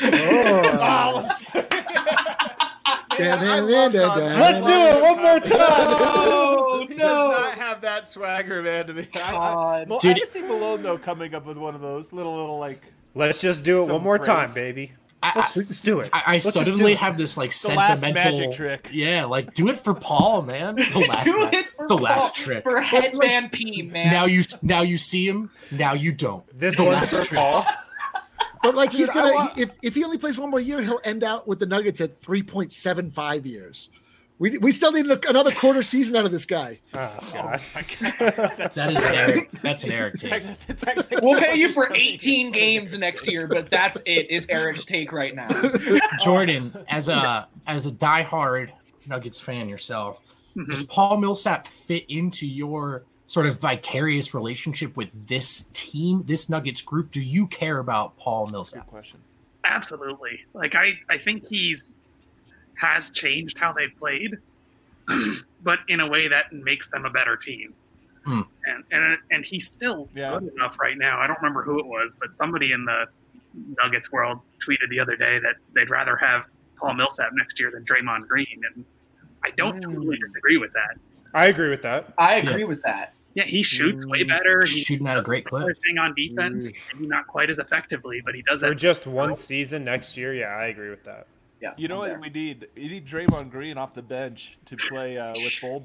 Let's do it one more time. He does not have that swagger, man. To me, I can see Malone though coming up with one of those little like. Let's just do it one more time, baby. Let's do it. I suddenly have this like sentimental magic trick. Yeah, like do it for Paul, man. The last trick for Headman P, man. Now you see him. Now you don't. This one's for Paul. But like he's gonna, if he only plays 1 more year, he'll end out with the Nuggets at 3.75 years. We still need another quarter season out of this guy. Oh God, that's an Eric take. We'll pay you for 18 games next year, but that's it. Is Eric's take right now? Jordan, as a diehard Nuggets fan yourself, does Paul Millsap fit into your sort of vicarious relationship with this team, this Nuggets group? Do you care about Paul Millsap? Good question. Absolutely. Like I think has changed how they've played, but in a way that makes them a better team. And he's still good enough right now. I don't remember who it was, but somebody in the Nuggets world tweeted the other day that they'd rather have Paul Millsap next year than Draymond Green, and I don't totally disagree with that. I agree with that. I agree with that. Yeah, he shoots way better. He's shooting at a great clip. On defense, maybe not quite as effectively, but he does that for just one season next year. Yeah, I agree with that. Yeah, you know what we need? You need Draymond Green off the bench to play with Bol.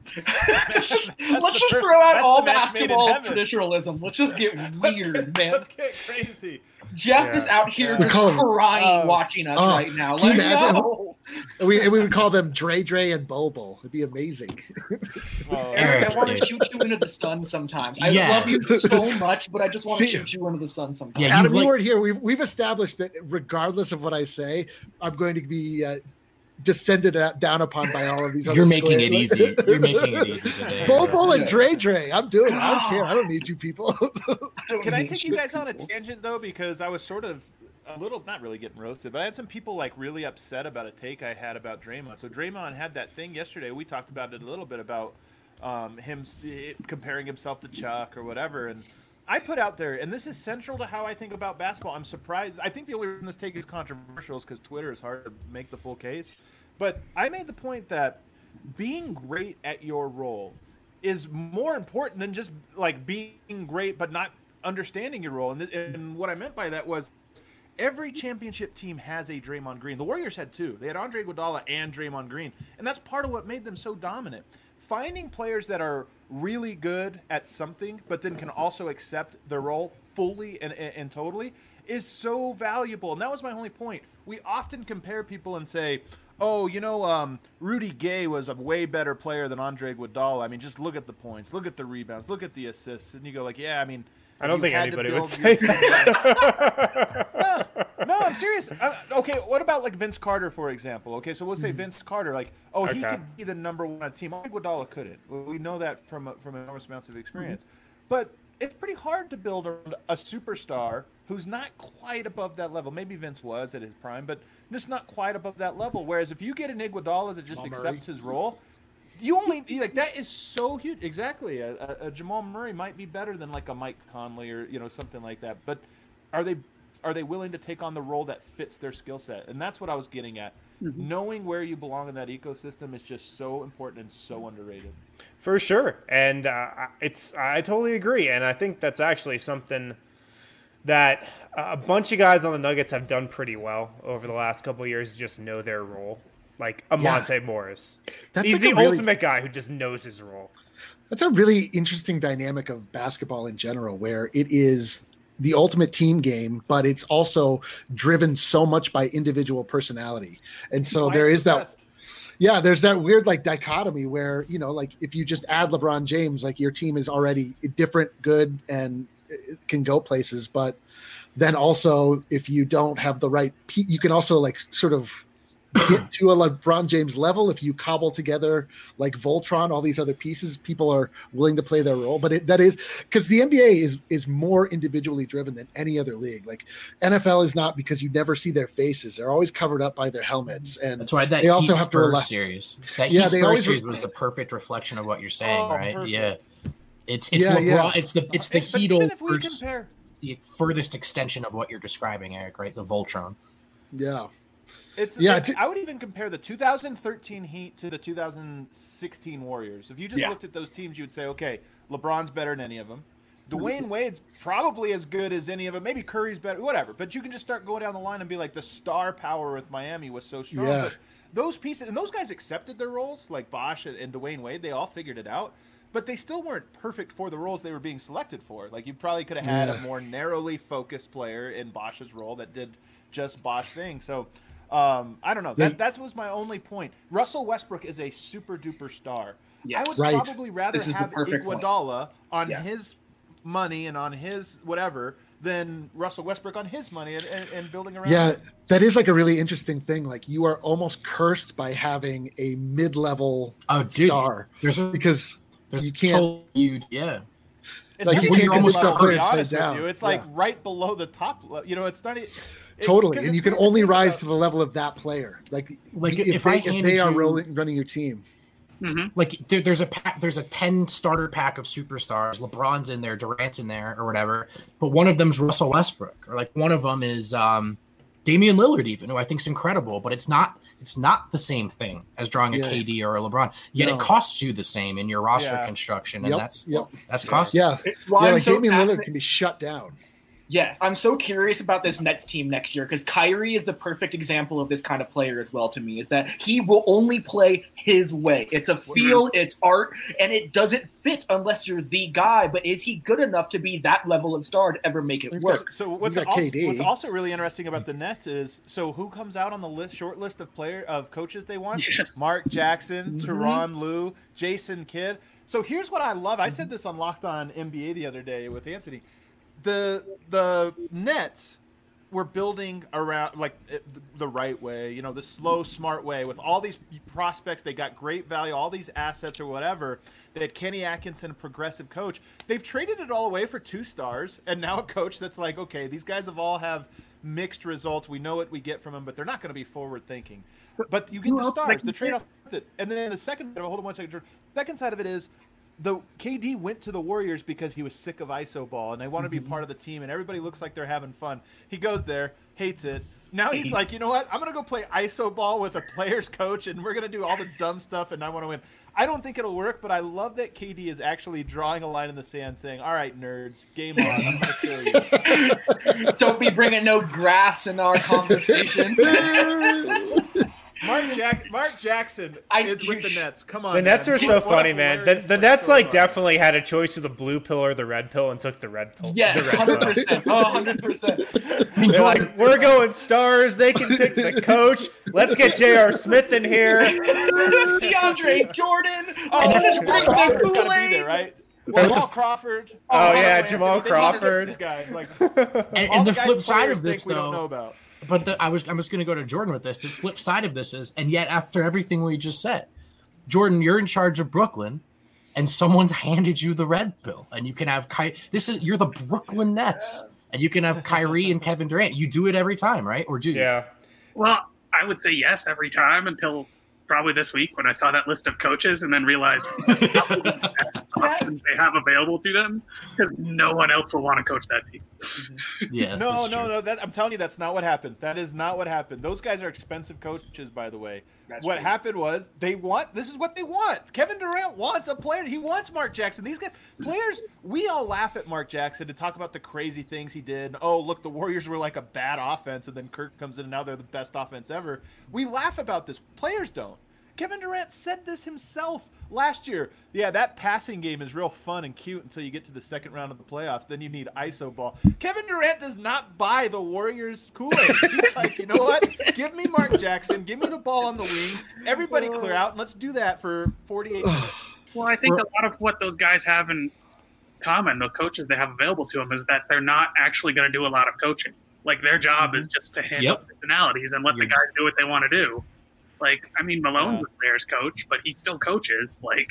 let's just throw out all basketball traditionalism. Let's just get weird, man. Let's get crazy. Jeff is out here just crying watching us right now. Can you imagine? No. We would call them Dre, and Bobo. It'd be amazing. Eric, I want to shoot you into the sun sometimes. I love you so much, but I just want to shoot you into the sun sometimes. Yeah, Adam, you weren't here. We've established that regardless of what I say, I'm going to be descended down upon by all of these. You're making it easy. You're making it easy today. Bobo and Dre. I'm doing it. I don't care. I don't need you people. Can I take you guys on a tangent though? Because I was sort of a little, not really getting roasted, but I had some people like really upset about a take I had about Draymond. So Draymond had that thing yesterday. We talked about it a little bit about him comparing himself to Chuck or whatever. And I put out there, and this is central to how I think about basketball. I'm surprised. I think the only reason this take is controversial is because Twitter is hard to make the full case. But I made the point that being great at your role is more important than just like being great but not understanding your role. And what I meant by that was every championship team has a Draymond Green. The Warriors had two. They had Andre Iguodala and Draymond Green. And that's part of what made them so dominant. Finding players that are really good at something but then can also accept their role fully and totally is so valuable. And that was my only point. We often compare people and say, oh, Rudy Gay was a way better player than Andre Iguodala. I mean, just look at the points, look at the rebounds, look at the assists. And you go like, yeah, I mean, I don't think anybody would say that. No, I'm serious. Okay, what about like Vince Carter, for example? Okay, so we'll say Vince Carter, like, he could be the number one on a team. Iguodala couldn't. We know that from enormous amounts of experience. But it's pretty hard to build around a superstar who's not quite above that level. Maybe Vince was at his prime, but just not quite above that level. Whereas if you get an Iguodala that just accepts his role, you only that is so huge. Exactly, a Jamal Murray might be better than like a Mike Conley or something like that. But are they willing to take on the role that fits their skill set? And that's what I was getting at. Mm-hmm. Knowing where you belong in that ecosystem is just so important and so underrated. For sure, and I totally agree, and I think that's actually something that a bunch of guys on the Nuggets have done pretty well over the last couple of years. Just know their role. Like Monte Morris. He's the ultimate guy who just knows his role. That's a really interesting dynamic of basketball in general, where it is the ultimate team game, but it's also driven so much by individual personality. And so there is that. Yeah, there's that weird like dichotomy where, like if you just add LeBron James, like your team is already different, good, and it can go places. But then also if you don't have the right, you can also like sort of get to a LeBron James level if you cobble together like Voltron, all these other pieces. People are willing to play their role, but that is because the NBA is more individually driven than any other league. Like NFL is not, because you never see their faces; they're always covered up by their helmets, and that's why they also have Spurs series. That Heat Spurs series was a perfect reflection of what you're saying, right? Perfect. Yeah, it's LeBron. Yeah. It's the Heat the furthest extension of what you're describing, Eric. Right, the Voltron. Yeah. I would even compare the 2013 Heat to the 2016 Warriors. If you just looked at those teams, you would say, okay, LeBron's better than any of them. Dwayne Wade's probably as good as any of them. Maybe Curry's better, whatever. But you can just start going down the line and be like, the star power with Miami was so strong. Yeah. But those pieces, and those guys accepted their roles, like Bosh and Dwayne Wade. They all figured it out. But they still weren't perfect for the roles they were being selected for. Like, you probably could have had a more narrowly focused player in Bosh's role that did just Bosh things. So, I don't know. That was my only point. Russell Westbrook is a super duper star. Yes. I would probably rather have Iguodala on his money and on his whatever than Russell Westbrook on his money and building around. Yeah, that is like a really interesting thing. Like, you are almost cursed by having a mid-level star. Because you can't. It's like, you can't almost it's like right below the top. It's not. Totally, and you can only rise to the level of that player. Like if they are running your team. Mm-hmm. Like there's a 10 starter pack of superstars. LeBron's in there, Durant's in there, or whatever. But one of them's Russell Westbrook, or like one of them is Damian Lillard, even, who I think is incredible. But it's not the same thing as drawing a KD or a LeBron. Yet it costs you the same in your roster construction, and that's costly. Yeah, like Damian Lillard can be shut down. Yes, I'm so curious about this Nets team next year because Kyrie is the perfect example of this kind of player as well to me, is that he will only play his way. It's a feel, it's art, and it doesn't fit unless you're the guy. But is he good enough to be that level of star to ever make it work? So what's also really interesting about the Nets is, so who comes out on the short list of coaches they want? Yes. Mark Jackson, Tyronn Lue, Jason Kidd. So here's what I love. I said this on Locked On NBA the other day with Anthony. The Nets were building around like the right way, the slow, smart way with all these prospects. They got great value, all these assets or whatever. They had Kenny Atkinson, a progressive coach. They've traded it all away for 2 stars, and now a coach that's like, okay, these guys all have mixed results. We know what we get from them, but they're not going to be forward thinking. But you get the stars, the trade off with it, and then the second. Hold on one second, George. Second side of it is, the KD went to the Warriors because he was sick of ISO ball and they want to be part of the team and everybody looks like they're having fun. He goes there, hates it. Now he's like, you know what? I'm going to go play ISO ball with a player's coach and we're going to do all the dumb stuff and I want to win. I don't think it'll work, but I love that KD is actually drawing a line in the sand saying, all right, nerds, game on. I'm going to show you. Don't be bringing no grass in our conversation. Mark Jackson is with the Nets. Come on, the Nets are so funny, man. The Nets storyline. Definitely had a choice of the blue pill or the red pill and took the red pill. Yes, the red 100%. Oh, 100%. They're like, we're going stars. They can pick the coach. Let's get J.R. Smith in here. DeAndre Jordan. Just bring the Crawford's Kool-Aid. gotta be there, right? Jamal Crawford. Jamal Crawford. These guys, like, and the flip side of this, we don't know though. about. But I was going to go to Jordan with this. The flip side of this is, and yet after everything we just said, Jordan, you're in charge of Brooklyn, and someone's handed you the red pill, and you can have you're the Brooklyn Nets, and you can have Kyrie and Kevin Durant. You do it every time, right? Or do you? Yeah. Well, I would say yes every time until probably this week when I saw that list of coaches and then realized how many options they have available to them because no one else will want to coach that team. Yeah. No. I'm telling you, that's not what happened. That is not what happened. Those guys are expensive coaches, by the way. What happened was this is what they want. Kevin Durant wants a player. He wants Mark Jackson. These guys, players, we all laugh at Mark Jackson and talk about the crazy things he did. Oh, look, the Warriors were like a bad offense, and then Kirk comes in, and now they're the best offense ever. We laugh about this. Players don't. Kevin Durant said this himself last year. Yeah, that passing game is real fun and cute until you get to the second round of the playoffs. Then you need ISO ball. Kevin Durant does not buy the Warriors Kool-Aid. He's like, you know what? Give me Mark Jackson. Give me the ball on the wing. Everybody clear out, and let's do that for 48 minutes. Well, I think a lot of what those guys have in common, those coaches they have available to them, is that they're not actually going to do a lot of coaching. Like, their job is just to handle personalities and let the guys do what they want to do. Like, I mean, Malone's a player's coach, but he still coaches. Like,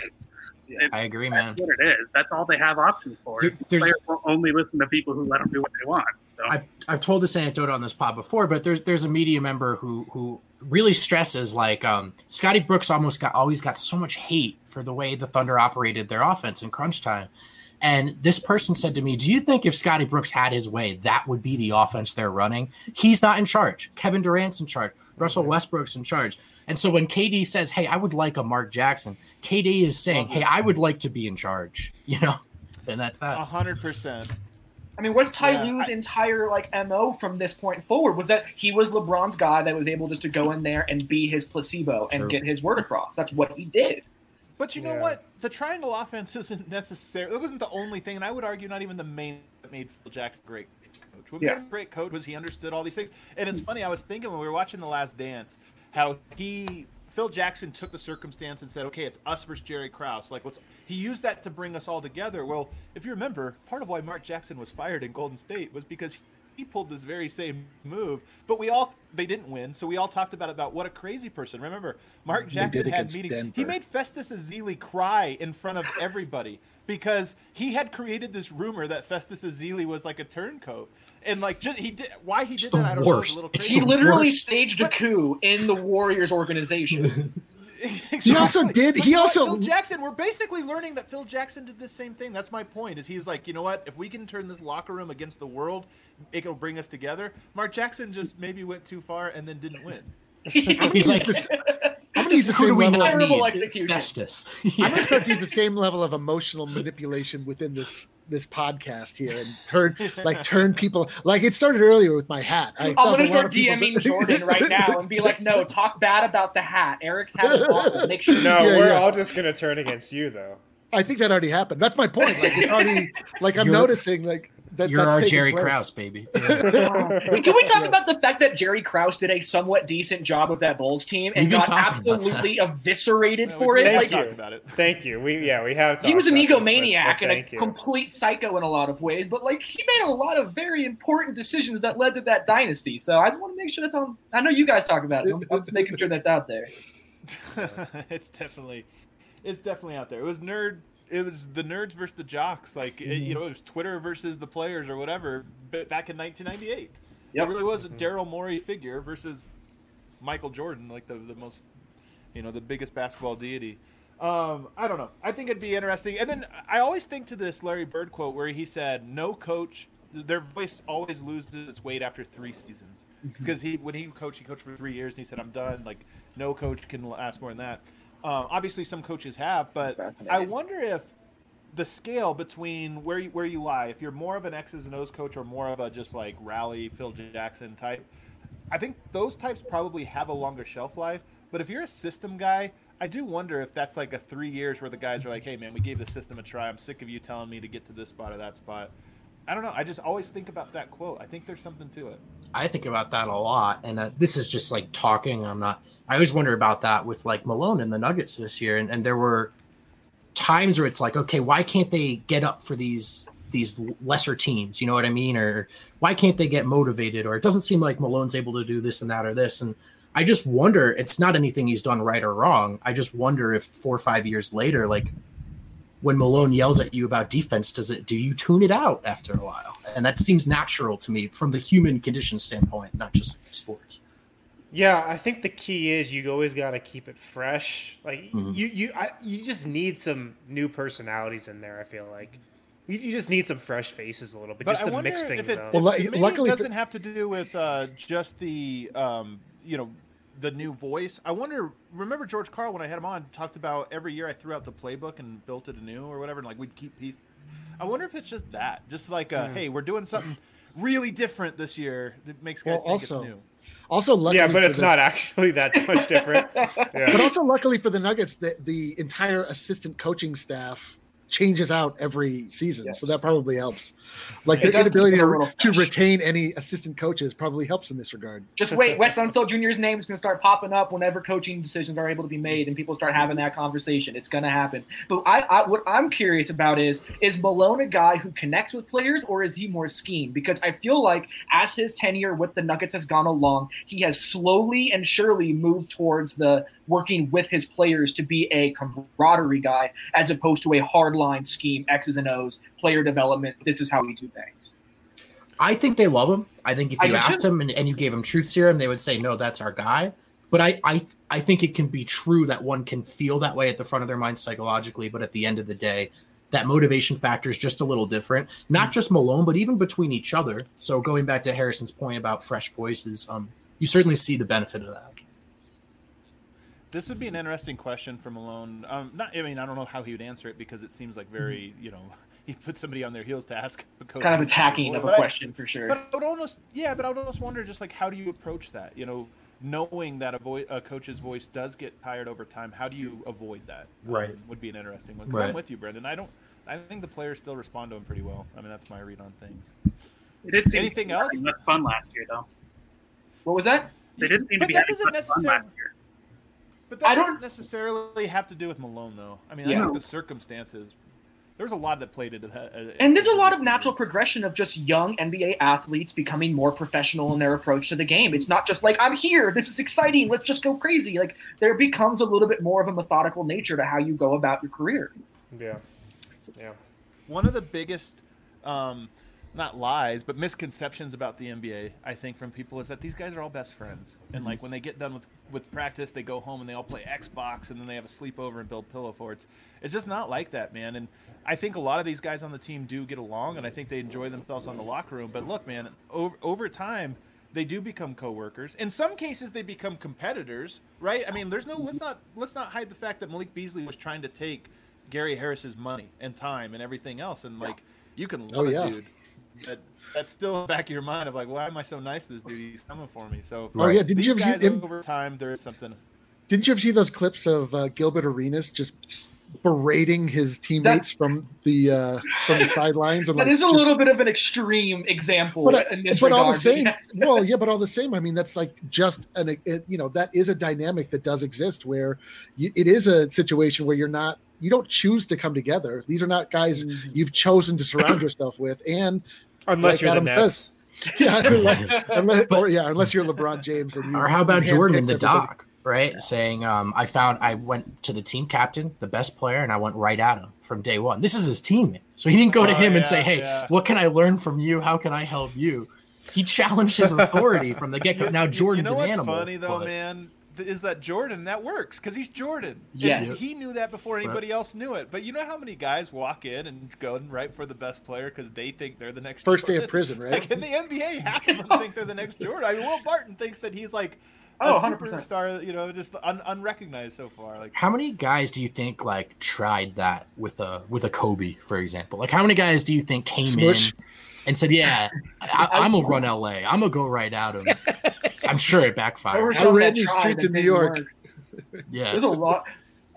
I agree, man. That's what it is. That's all they have options for. Players will only listen to people who let them do what they want. So I've told this anecdote on this pod before, but there's a media member who really stresses like Scotty Brooks always got so much hate for the way the Thunder operated their offense in crunch time. And this person said to me, do you think if Scotty Brooks had his way, that would be the offense they're running? He's not in charge. Kevin Durant's in charge. Russell Westbrook's in charge. And so when KD says, hey, I would like a Mark Jackson, KD is saying, hey, I would like to be in charge, and that's that. 100%. I mean, what's Ty Lue's entire MO from this point forward was that he was LeBron's guy that was able just to go in there and be his placebo and get his word across. That's what he did. But you know what? The triangle offense isn't necessarily – it wasn't the only thing, and I would argue not even the main that made Phil Jackson great coach. What made him a great coach was he understood all these things. And it's funny, I was thinking when we were watching The Last Dance how Phil Jackson took the circumstance and said, okay, it's us versus Jerry Krause. He used that to bring us all together. Well, if you remember, part of why Mark Jackson was fired in Golden State was because he pulled this very same move, but they didn't win, so we all talked about what a crazy person. Remember, Mark Jackson had meetings. Denver. He made Festus Ezeli cry in front of everybody because he had created this rumor that Festus Ezeli was like a turncoat. And he did why he did that, I don't know. It was a little crazy. He literally staged a coup in the Warriors organization. Exactly. Phil Jackson, we're basically learning that Phil Jackson did the same thing. That's my point, is he was like, you know what, if we can turn this locker room against the world, it'll bring us together. Mark Jackson just maybe went too far and then didn't win. He's like, I'm going to use the same level of execution. Festus. I'm going to start to use the same level of emotional manipulation within this this podcast here and turn people like it started earlier with my hat. I'm gonna start DMing Jordan right now and be like, no, talk bad about the hat. Eric's hat is awful. Make sure. No, we're all just gonna turn against you though. I think that already happened. That's my point. Like it's already like I'm noticing like that. You're our Jerry Krause, baby. Yeah. Can we talk about the fact that Jerry Krause did a somewhat decent job with that Bulls team and got absolutely eviscerated for it? Thank like, you. About it. Thank you. We have. He was an egomaniac and a complete psycho in a lot of ways, but like he made a lot of very important decisions that led to that dynasty. So I just want to make sure that's on. I know you guys talk about it. I'm just making sure that's out there. It's definitely out there. It was the nerds versus the jocks. Like, it was Twitter versus the players or whatever back in 1998. Yep. It really was a Daryl Morey figure versus Michael Jordan, like the most, the biggest basketball deity. I don't know. I think it'd be interesting. And then I always think to this Larry Bird quote where he said, no coach, their voice always loses its weight after 3 seasons. Because when he coached for 3 years and he said, I'm done. Like, no coach can last more than that. Obviously, some coaches have, but I wonder if the scale between where you lie, if you're more of an X's and O's coach or more of a just like rally Phil Jackson type, I think those types probably have a longer shelf life. But if you're a system guy, I do wonder if that's like a 3 years where the guys are like, hey, man, we gave the system a try. I'm sick of you telling me to get to this spot or that spot. I don't know. I just always think about that quote. I think there's something to it. I think about that a lot. And this is just like talking. I always wonder about that with like Malone and the Nuggets this year. And there were times where it's like, okay, why can't they get up for these lesser teams? You know what I mean? Or why can't they get motivated? Or it doesn't seem like Malone's able to do this and that or this. And I just wonder, it's not anything he's done right or wrong. I just wonder if 4 or 5 years later, like when Malone yells at you about defense, do you tune it out after a while? And that seems natural to me from the human condition standpoint, not just sports. Yeah, I think the key is you always got to keep it fresh. Like you just need some new personalities in there. I feel like you just need some fresh faces a little bit, just to mix things up. Well, luckily, it doesn't have to do with just the the new voice. I wonder. Remember George Karl when I had him on talked about every year I threw out the playbook and built it anew or whatever, and like we'd keep pieces. I wonder if it's just that, just like hey, we're doing something really different this year that makes guys think it's new. Also, luckily, but it's not actually that much different. Yeah. But also, luckily for the Nuggets, the entire assistant coaching staff changes out every season, so that probably helps. Like their inability to retain any assistant coaches probably helps in this regard. Just wait, Wes Unseld Jr.'s name is going to start popping up whenever coaching decisions are able to be made, and people start having that conversation. It's going to happen. But what I'm curious about is Malone a guy who connects with players, or is he more scheme? Because I feel like as his tenure with the Nuggets has gone along, he has slowly and surely moved towards the working with his players to be a camaraderie guy, as opposed to a hardline scheme, X's and O's, player development. This is how we do things. I think they love him. I think if you asked him and you gave him truth serum, they would say, no, that's our guy. But I think it can be true that one can feel that way at the front of their mind psychologically, but at the end of the day, that motivation factor is just a little different. Not just Malone, but even between each other. So going back to Harrison's point about fresh voices, you certainly see the benefit of that. This would be an interesting question for Malone. I don't know how he would answer it because it seems like very, he put somebody on their heels to ask a coach. Kind of attacking of a question for sure. But I would almost wonder just like how do you approach that? Knowing that a coach's voice does get tired over time, how do you avoid that? Right. Would be an interesting one. 'Cause I'm with you, Brendan. I think the players still respond to him pretty well. I mean, that's my read on things. It did seem Anything else? Less fun last year, though. What was that? They didn't seem to be having less fun last year. But that doesn't necessarily have to do with Malone, though. I mean, I think the circumstances. There's a lot that played into that. And there's a lot of natural progression of just young NBA athletes becoming more professional in their approach to the game. It's not just like, I'm here, this is exciting, let's just go crazy. Like, there becomes a little bit more of a methodical nature to how you go about your career. Yeah. One of the biggest, not lies, but misconceptions about the NBA, I think, from people is that these guys are all best friends. And, like, when they get done with practice, they go home and they all play Xbox, and then they have a sleepover and build pillow forts. It's just not like that, man. And I think a lot of these guys on the team do get along, and I think they enjoy themselves on the locker room. But look, man, over time, they do become coworkers. In some cases, they become competitors, right? I mean, let's not hide the fact that Malik Beasley was trying to take Gary Harris's money and time and everything else, and like You can Oh, love yeah. a dude that's still in the back of your mind of like, why am I so nice to this dude? He's coming for me. So Oh yeah, didn't these you ever guys see? over time? There is something. Didn't you ever see those clips of Gilbert Arenas just berating his teammates from the sidelines? And That like, is a just- little bit of an extreme example in this but all the regard, same, yes. well, yeah, but all the same, I mean, that's like just that is a dynamic that does exist where it is a situation where you don't choose to come together. These are not guys you've chosen to surround yourself with, and Unless you're Adam the Nets. yeah, unless you're LeBron James, and Or how about Jordan in the handpicked everybody. doc, right? Saying, I went to the team captain, the best player, and I went right at him from day one. This is his teammate. So he didn't go to him and say, hey, what can I learn from you? How can I help you? He challenged his authority from the get-go. Now, Jordan's you know an what's animal. funny, though, man? Is that Jordan, that works because he's Jordan. Yes. And he knew that before anybody else knew it. But you know how many guys walk in and go and write for the best player because they think they're the next First day Jordan? of prison, right? Like in the NBA, half of them think they're the next Jordan. I mean, Will Barton thinks that he's like a 100%. superstar, just unrecognized so far. Like, How many guys do you think like tried that with a Kobe, for example? Like, how many guys do you think came Smush. in and said, "Yeah, I'm gonna run LA. I'm gonna go right at him." I'm sure it There were backfired. some ran that these tried streets that in New didn't York. work. Yeah, There's a lot.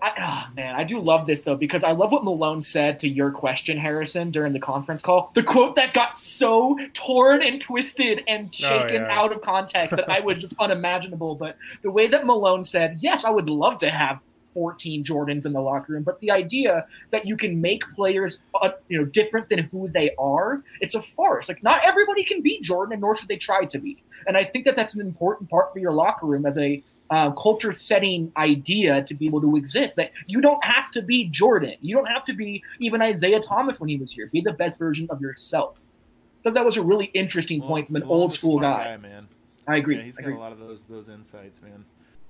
Man, I do love this though because I love what Malone said to your question, Harrison, during the conference call. The quote that got so torn and twisted and shaken out of context that I was just unimaginable. But the way that Malone said, "Yes, I would love to have 14 Jordans in the locker room," but the idea that you can make players, different than who they are, it's a farce. Like, not everybody can be Jordan, and nor should they try to be. And I think that that's an important part for your locker room as a culture-setting idea to be able to exist. That you don't have to be Jordan. You don't have to be even Isaiah Thomas when he was here. Be the best version of yourself. So that was a really interesting point from an Malone's old school a smart guy. man. I agree. Yeah, he's got a lot of those insights, man.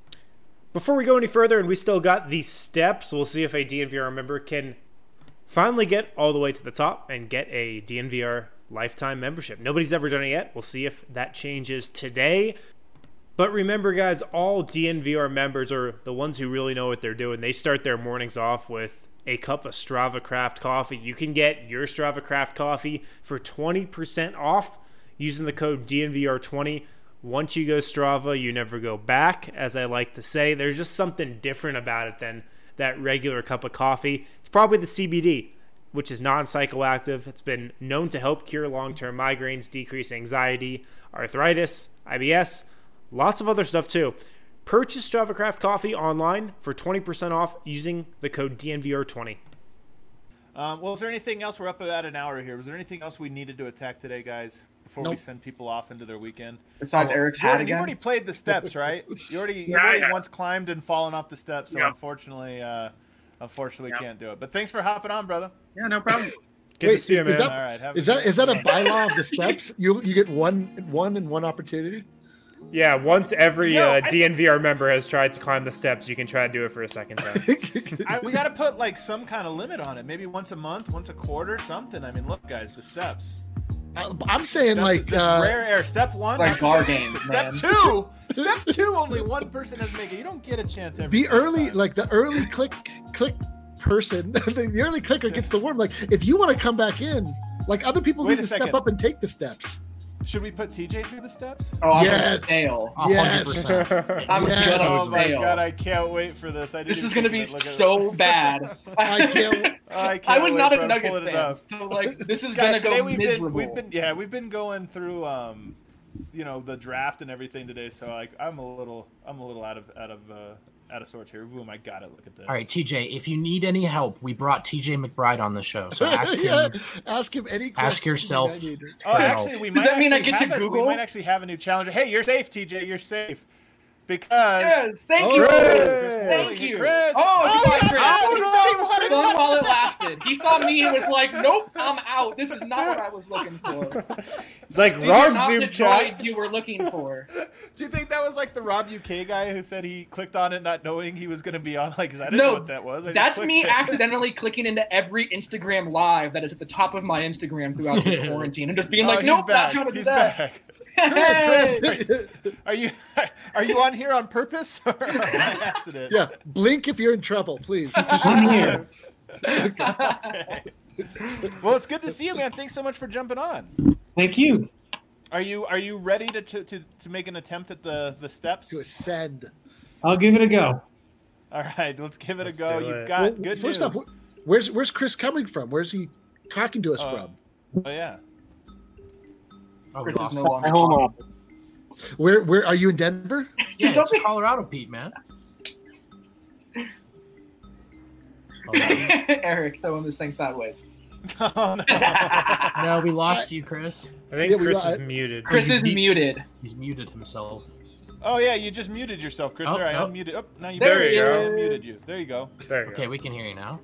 Before we go any further, and we still got these steps, we'll see if a DNVR member can finally get all the way to the top and get a DNVR lifetime membership. Nobody's ever done it yet. We'll see if that changes today. But remember, guys, all DNVR members are the ones who really know what they're doing. They start their mornings off with a cup of Strava Craft coffee. You can get your Strava Craft coffee for 20% off using the code DNVR20. Once you go Strava, you never go back, as I like to say. There's just something different about it than that regular cup of coffee. It's probably the CBD, which is non-psychoactive. It's been known to help cure long-term migraines, decrease anxiety, arthritis, IBS, lots of other stuff too. Purchase Strava Craft coffee online for 20% off using the code DNVR20. Well, is there anything else? We're up about an hour here. Was there anything else we needed to attack today, guys, before we send people off into their weekend? Besides Eric's hat Jordan, again? you already played the steps, right? You already once climbed and fallen off the steps, so unfortunately, can't do it. But thanks for hopping on, brother. Yeah, no problem. Good to see you, man. Is that, All right, is that a bylaw of the steps? You get one opportunity? Yeah, once every DNVR member has tried to climb the steps, you can try to do it for a second time. We got to put like some kind of limit on it. Maybe once a month, once a quarter, something. I mean, look, guys, the steps. I'm saying Steps, rare air. Step one, Like bar games, Step man. Step two, only one person has to make it. You don't get a chance every the early click person, the early clicker gets the worm. Like, if you want to come back in, like, other people Wait need a to second. step up and take the steps. Should we put TJ through the steps? Oh, I'm Yes. gonna fail. 100%. I'm Yes. gonna Oh my fail. god, I can't wait for this. This is gonna be so bad. I can't. I was not a I'm Nuggets pulling it fan, up. so like this is Guys, gonna today go miserable. we've been going through the draft and everything today, so like I'm a little out of sorts here. Boom, I got it. Look at this. All right, TJ, if you need any help, we brought TJ McBride on the show. So ask him. Yeah, ask him any question. Ask yourself. Oh, actually, we might. Does that mean I actually get to have Google? We might actually have a new challenger. Hey, you're safe, TJ. You're safe. Because Yes, thank you. Thank you. Chris. Oh, it's yeah. fine, Chris. Oh, he said he wanted Fun us. while it lasted. He saw me and was like, "Nope, I'm out. This is not what I was looking for. It's like These are wrong not the Zoom chat. droid you were looking for." Do you think that was like the Rob UK guy who said he clicked on it not knowing he was going to be on? Like, 'cause I didn't know what that was. I just That's clicked me it. accidentally clicking into every Instagram live that is at the top of my Instagram throughout this quarantine and just being Oh, like, he's "Nope, back. not trying to do He's that." back. Hey! Chris, are you on here on purpose or by accident? Yeah, blink if you're in trouble, please. I'm here. Okay. Well, it's good to see you, man. Thanks so much for jumping on. Thank you. Are you ready to make an attempt at the steps? To ascend. I'll give it a go. All right, let's give it Let's a go. do You've it. got good First news. off, where's Chris coming from? Where's he talking to us from? Oh yeah. Oh, we Chris is lost no him. longer My home office. Where are you in Denver? Yeah, Don't it's be- Colorado, Pete, man. Oh, Eric throwing this thing sideways. Oh, no. no, we lost you, Chris. I think Yeah, we Chris got- is muted. Chris is muted. He's muted himself. Oh yeah, you just muted yourself, Chris. Oh, there, I no. unmuted. Oh, now you There he I is. unmuted you. There you go. There you Okay, go. we can hear you now.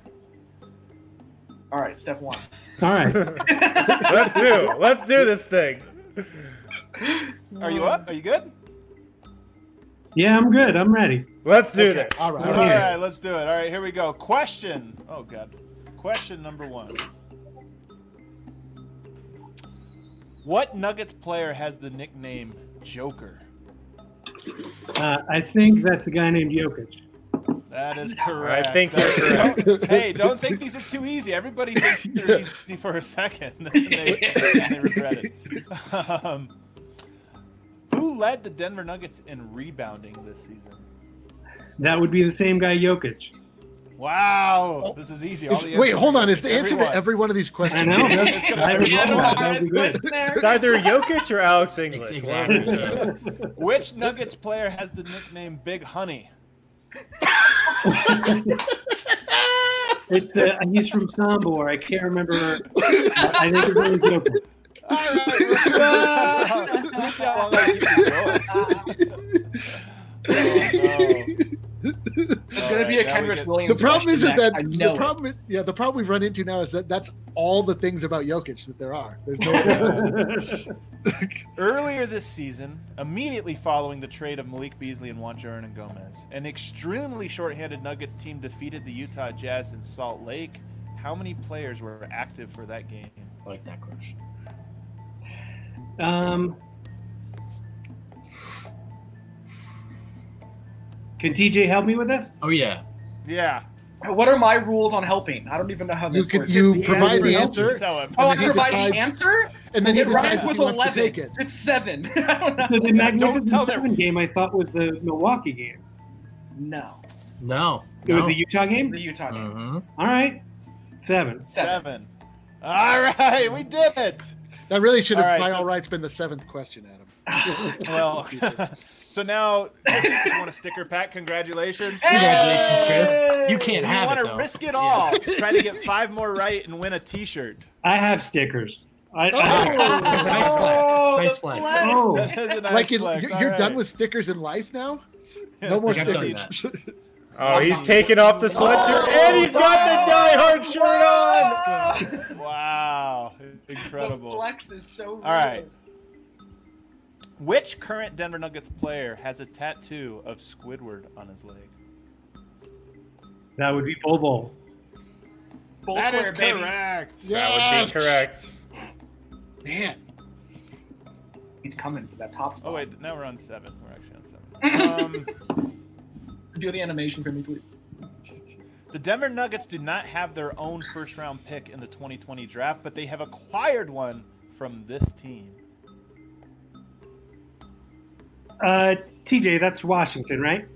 All right, step one. All right. Let's do this thing. Are you up? Are you good? Yeah, I'm good. I'm ready. Let's do Okay, this. all right. All Yeah. right, let's do it. All right, here we go. Question. Oh god. Question number 1. What Nuggets player has the nickname Joker? I think that's a guy named Jokic. That is correct. I think you're correct. Hey, don't think these are too easy. Everybody thinks they're easy for a second, and they regret it. Who led the Denver Nuggets in rebounding this season? That would be the same guy, Jokic. Wow, this is easy. All the Wait, answers hold are on. Is the answer everyone. to every one of these I questions? know. It's gonna I hurt. would love that. That would be good. It's either Jokic or Alex English. Exactly. Which Nuggets player has the nickname Big Honey? It's he's from Sombor. I can't remember. I think his name is Jokic. All right, let's see how long I keep it going. Oh, no. There's going to be a All right, now we Kenrich get- Williams. The problem question isn't next. that I the know it. problem. The problem we've run into now is that that's all the things about Jokic that there are. There's no. Earlier this season, immediately following the trade of Malik Beasley and Juancho Hernangomez, an extremely shorthanded Nuggets team defeated the Utah Jazz in Salt Lake. How many players were active for that game? I like that question. Can TJ help me with this? Oh yeah. Yeah. What are my rules on helping? I don't even know how You this can works. you provide the Yeah. answer, Tell him. Oh, I and then he provide the decides- answer? and then he It decides rhymes if he with wants 11. to take it. It's 7. I don't know. So the Magnificent tell them. 7 game I thought was the Milwaukee game. No. No. It was No. the Utah game? The Utah game. Mhm. All right. 7. 7. All right, we did it. That really should have, All right, by so- all rights, been the 7th question, Adam. Well, so now you want a sticker pack? Congratulations. Congratulations, Chris. You Do can't you have want it to though. risk it all? Try to get 5 more right and win a T-shirt. I have stickers. Nice flex. Nice flex. Oh. That is a nice Like flex. you're All done right. with stickers in life now. No more I think I've done stickers. Oh, he's taking off the sweatshirt and he's got the Die Hard shirt on. Wow, The incredible. flex is so real. All right. Which current Denver Nuggets player has a tattoo of Squidward on his leg? That would be Bol Bol. Full That is square, baby. correct. That would be correct. Man, He's coming for that top spot. Oh wait, now we're on 7. We're actually on 7. Do the animation for me, please. The Denver Nuggets do not have their own first-round pick in the 2020 draft, but they have acquired one from this team. TJ, that's Washington, right?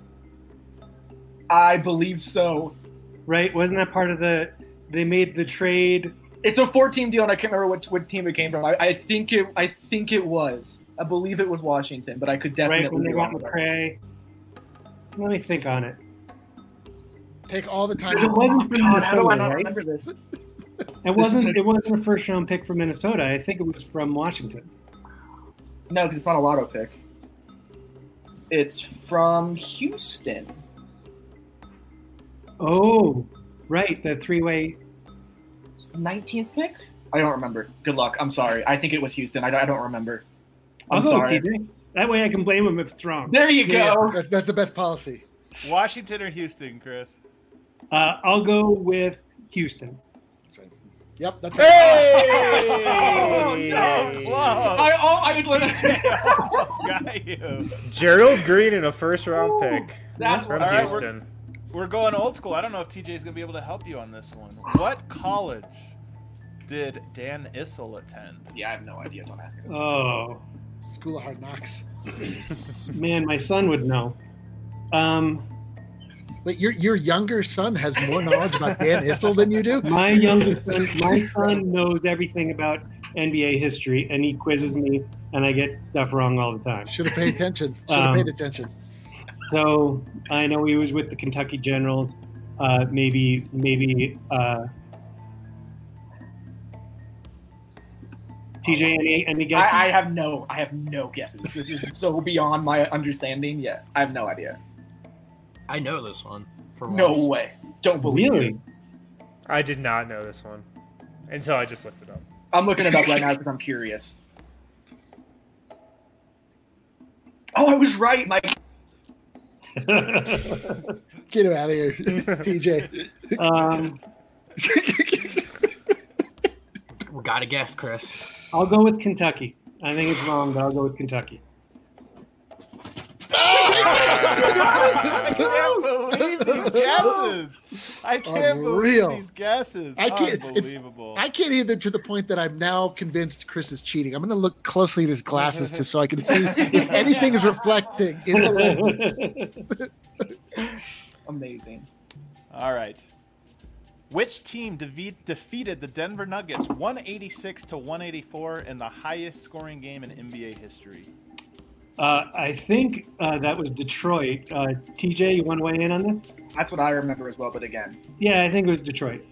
I believe so. Right? Wasn't that part of the? They made the trade. It's a 4-team deal, and I can't remember what team it came from. I think it was. I believe it was Washington, but I could definitely. Right when they be got wrong with that. McRae. Let me think on it. take all the time. It wasn't from God, how do I Minnesota, not right? remember this? It wasn't a first round pick from Minnesota. I think it was from Washington. No, because it's not a lotto pick. It's from Houston. Oh, right, the 3-way. It's the 19th pick? I don't remember. Good luck. I'm sorry. I think it was Houston. I don't remember. I'll I'm go sorry. with TJ. That way I can blame him if it's wrong. There you Yeah, go. that's the best policy. Washington or Houston, Chris? I'll go with Houston. That's right. Yep, that's right. Hey! Oh, so close. I Almost got you. Gerald Green in a first round pick That's from what All right, Houston. We're going old school. I don't know if TJ is going to be able to help you on this one. What college did Dan Issel attend? Yeah, I have no idea. Don't ask me this. Oh, School of Hard Knocks. man, my son would know. Wait, your younger son has more knowledge about Dan Issel than you do? My son knows everything about NBA history, and he quizzes me, and I get stuff wrong all the time. Should have paid attention. Should have paid attention. So I know he was with the Kentucky Generals. Maybe. TJ, any guesses? I have no guesses. This is so beyond my understanding. Yeah, I have no idea. I know this one. For No once. way. Don't believe Really? it. I did not know this one until I just looked it up. I'm looking it up right now because I'm curious. Oh, I was right. My Get him out of here, TJ. We gotta guess, Chris. I'll go with Kentucky. I think it's wrong, but I'll go with Kentucky. I can't believe these guesses. I can't Unreal. believe these guesses. I can't. Unbelievable. I can't either, to the point that I'm now convinced Chris is cheating. I'm going to look closely at his glasses just so I can see if anything is reflecting in the lenses. amazing. All right. Which team defeated the Denver Nuggets 186-184 in the highest scoring game in NBA history? I think that was Detroit. TJ, you want to weigh in on this? That's what I remember as well. But again, Yeah, I think it was Detroit.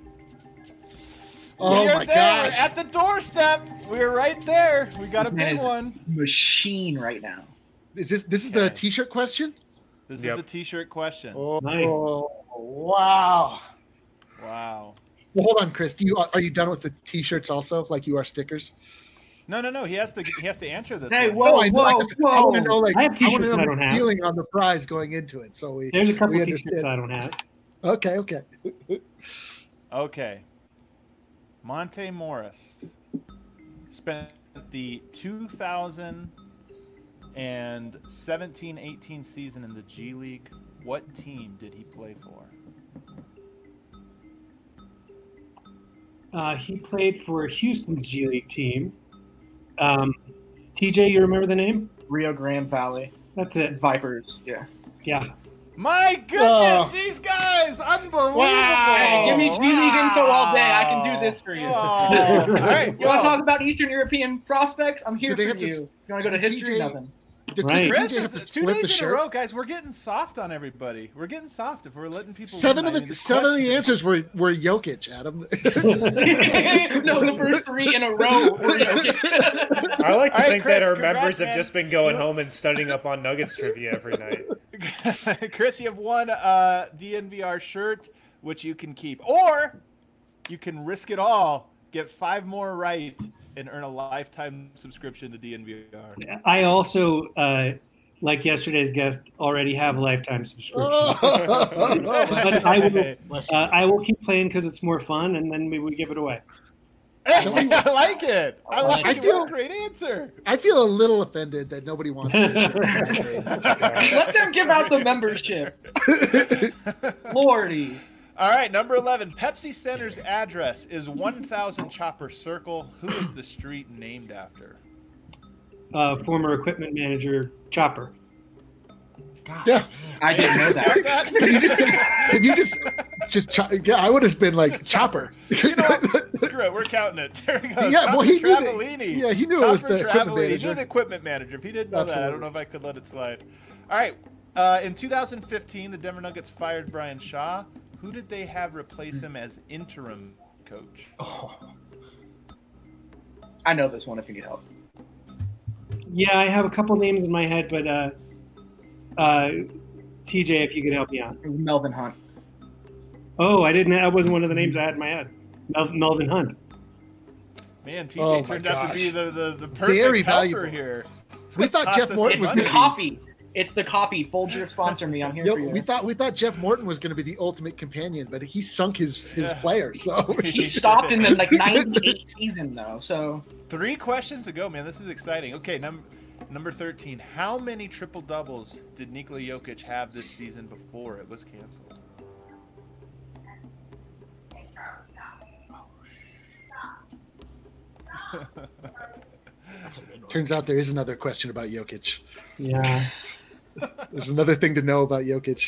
Oh we are my there. gosh. We're at the doorstep. We're right there. We got a Man, big it's- one. machine right now. Is this the Okay. T-shirt question? This Yep. is the T-shirt question. Oh, Nice. wow. Wow. Well, hold on, Chris. Are you done with the T-shirts also, like you are stickers? No. He has to answer this. Hey, one. whoa, I know. I want to know, like, I have I T-shirts want to know I don't the have. feeling on the prize going into it. So There's a couple we of T-shirts understand. I don't have. Okay. Okay. Monte Morris spent the 2017-18 season in the G League. What team did he play for? He played for Houston's G League team. TJ, you remember the name? Rio Grande Valley That's it. Vipers. Yeah. Yeah. My goodness, Oh. these guys! Unbelievable! Hey, give me G League info all day. I can do this for you. Oh. All right. You want to talk about Eastern European prospects? I'm here Do they for have to you. s- You want to go to did history? TJ Nothing. Did Right. Chris, Chris, TJ have to is 2 split days the in a shirt? row, guys. We're getting soft on everybody. We're getting soft if we're letting people. Seven win. of the answers were Jokic, Adam. No, the first 3 in a row were Jokic. I like to All right, think Chris, that our congrats, members have man. just been going home and studying up on Nuggets trivia every night. Chris, you have one DNVR shirt, which you can keep, or you can risk it all, get 5 more right, and earn a lifetime subscription to DNVR. I also, like yesterday's guest, already have a lifetime subscription. But I will keep playing because it's more fun, and then maybe we give it away. I like it. I like I it. feel- What a great answer. I feel a little offended that nobody wants to. Let them give out the membership. Lordy. All right, number 11. Pepsi Center's address is 1000 Chopper Circle. Who is the street named after? Former equipment manager Chopper. Yeah. I didn't know that. That? Can you just say? Can you just yeah, I would have been like Chopper. You know, screw it. We're counting it. There we go. Yeah, well, he knew that- Travellini. yeah, he knew it was Chopper the equipment Travellini. He manager. knew the equipment manager. If he didn't know that, I Absolutely. don't know if I could let it slide. All right. In 2015, the Denver Nuggets fired Brian Shaw. Who did they have replace him as interim coach? I know this one if you need help. Yeah, I have a couple names in my head, but TJ, if you could help me out. It was Melvin Hunt. Oh, I didn't. That wasn't one of the names I had in my head. Melvin Hunt. Man, TJ Oh my turned out to be gosh. the perfect Very helper valuable. here. It's We gonna thought cost Jeff us Morton some was It's the money. coffee. It's the coffee. Folger, sponsor me. I'm here for you. We thought Jeff Morton was going to be the ultimate companion, but he sunk his player. So He stopped in the 98 season though. So 3 questions to go, man. This is exciting. Okay, Number 13. How many triple doubles did Nikola Jokic have this season before it was canceled? That's a good one. Turns out there is another question about Jokic. Yeah. There's another thing to know about Jokic.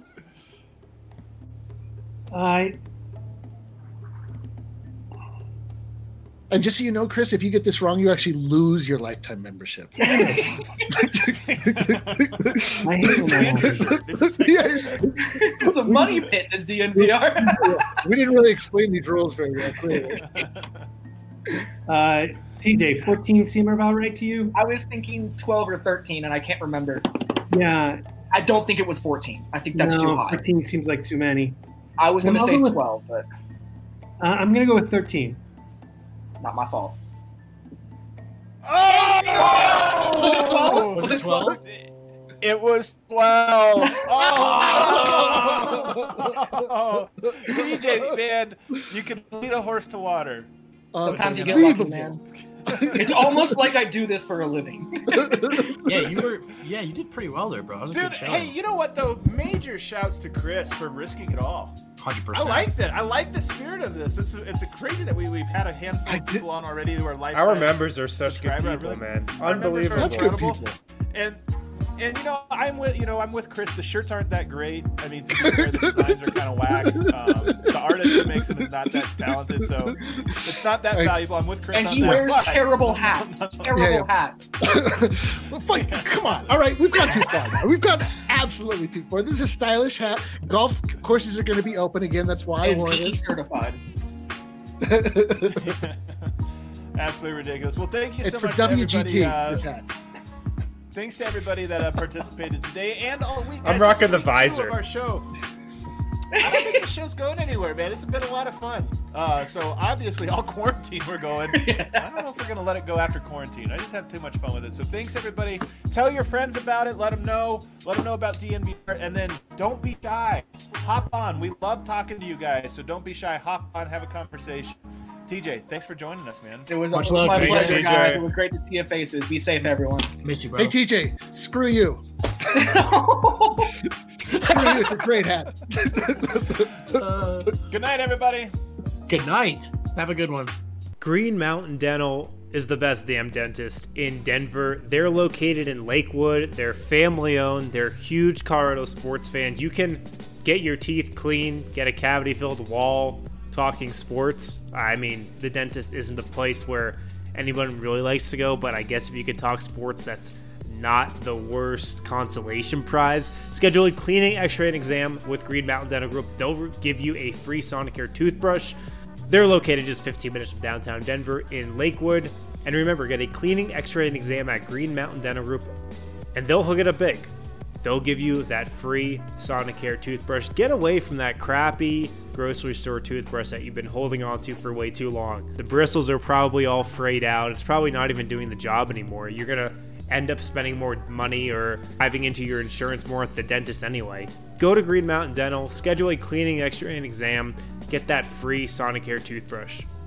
And just so you know, Chris, if you get this wrong, you actually lose your lifetime membership. I hate It's a money pit, this DNVR. We didn't really explain these rules very well, clearly. TJ, 14 seem about right to you? I was thinking 12 or 13, and I can't remember. Yeah. I don't think it was 14. I think that's too high. 13 seems like too many. I was going to I'll say go with- 12, but I'm going to go with 13. not my fault. Oh! Was it 12? It was 12. Oh! DJ, man, you can lead a horse to water. Sometimes you get lucky, man. It's almost like I do this for a living. Yeah, you did pretty well there, bro. That was a Dude, good show. hey, you know what though? Major shouts to Chris for risking it all. 100%. I like that. I like the spirit of this. It's a crazy that we've had a handful of people on already who are lifetime Our members are such good subscribers. people, Really- man. our members are Unbelievable. Such good incredible. people. And I'm with Chris. The shirts aren't that great. I mean, to be fair, the designs are kind of whack. The artist who makes them is not that talented, so it's not that valuable. I'm with Chris And on he that. wears but- terrible hats. Terrible hat. Well, fine, come on. All right, we've gone too far now. We've gone absolutely too far. This is a stylish hat. Golf courses are going to be open again. That's why I And wore Pinky this. certified. Absolutely ridiculous. Well, thank you so It's for much to everybody. WGT, this hat. Thanks to everybody that participated today and all week. I'm Guys, rocking this is the week 2 visor. Of our show. I don't think the show's going anywhere, man. This has been a lot of fun. So obviously, all quarantine we're going. I don't know if we're going to let it go after quarantine. I just have too much fun with it. So thanks, everybody. Tell your friends about it. Let them know. Let them know about DNVR. And then don't be shy. Hop on. We love talking to you guys. So don't be shy. Hop on. Have a conversation. TJ, thanks for joining us, man. It was, Much it was love, my TJ. pleasure, guys. It was great to see your faces. Be safe, everyone. Miss you, bro. Hey, TJ, screw you. Screw you. It's a great hat. Good night, everybody. Good night. Have a good one. Green Mountain Dental is the best damn dentist in Denver. They're located in Lakewood. They're family owned. They're huge Colorado sports fans. You can get your teeth clean, get a cavity filled wall, talking sports. I mean, the dentist isn't the place where anyone really likes to go, but I guess if you could talk sports, that's not the worst consolation prize. Schedule a cleaning, x-ray, and exam with Green Mountain Dental Group. They'll give you a free Sonicare toothbrush. They're located just 15 minutes from downtown Denver in Lakewood. And remember, get a cleaning, x-ray, and exam at Green Mountain Dental Group, and they'll hook it up big. They'll give you that free Sonicare toothbrush. Get away from that crappy grocery store toothbrush that you've been holding on to for way too long. The bristles are probably all frayed out. It's probably not even doing the job anymore. You're going to end up spending more money or diving into your insurance more at the dentist anyway. Go to Green Mountain Dental, schedule a cleaning, x-ray, and exam. Get that free Sonicare toothbrush.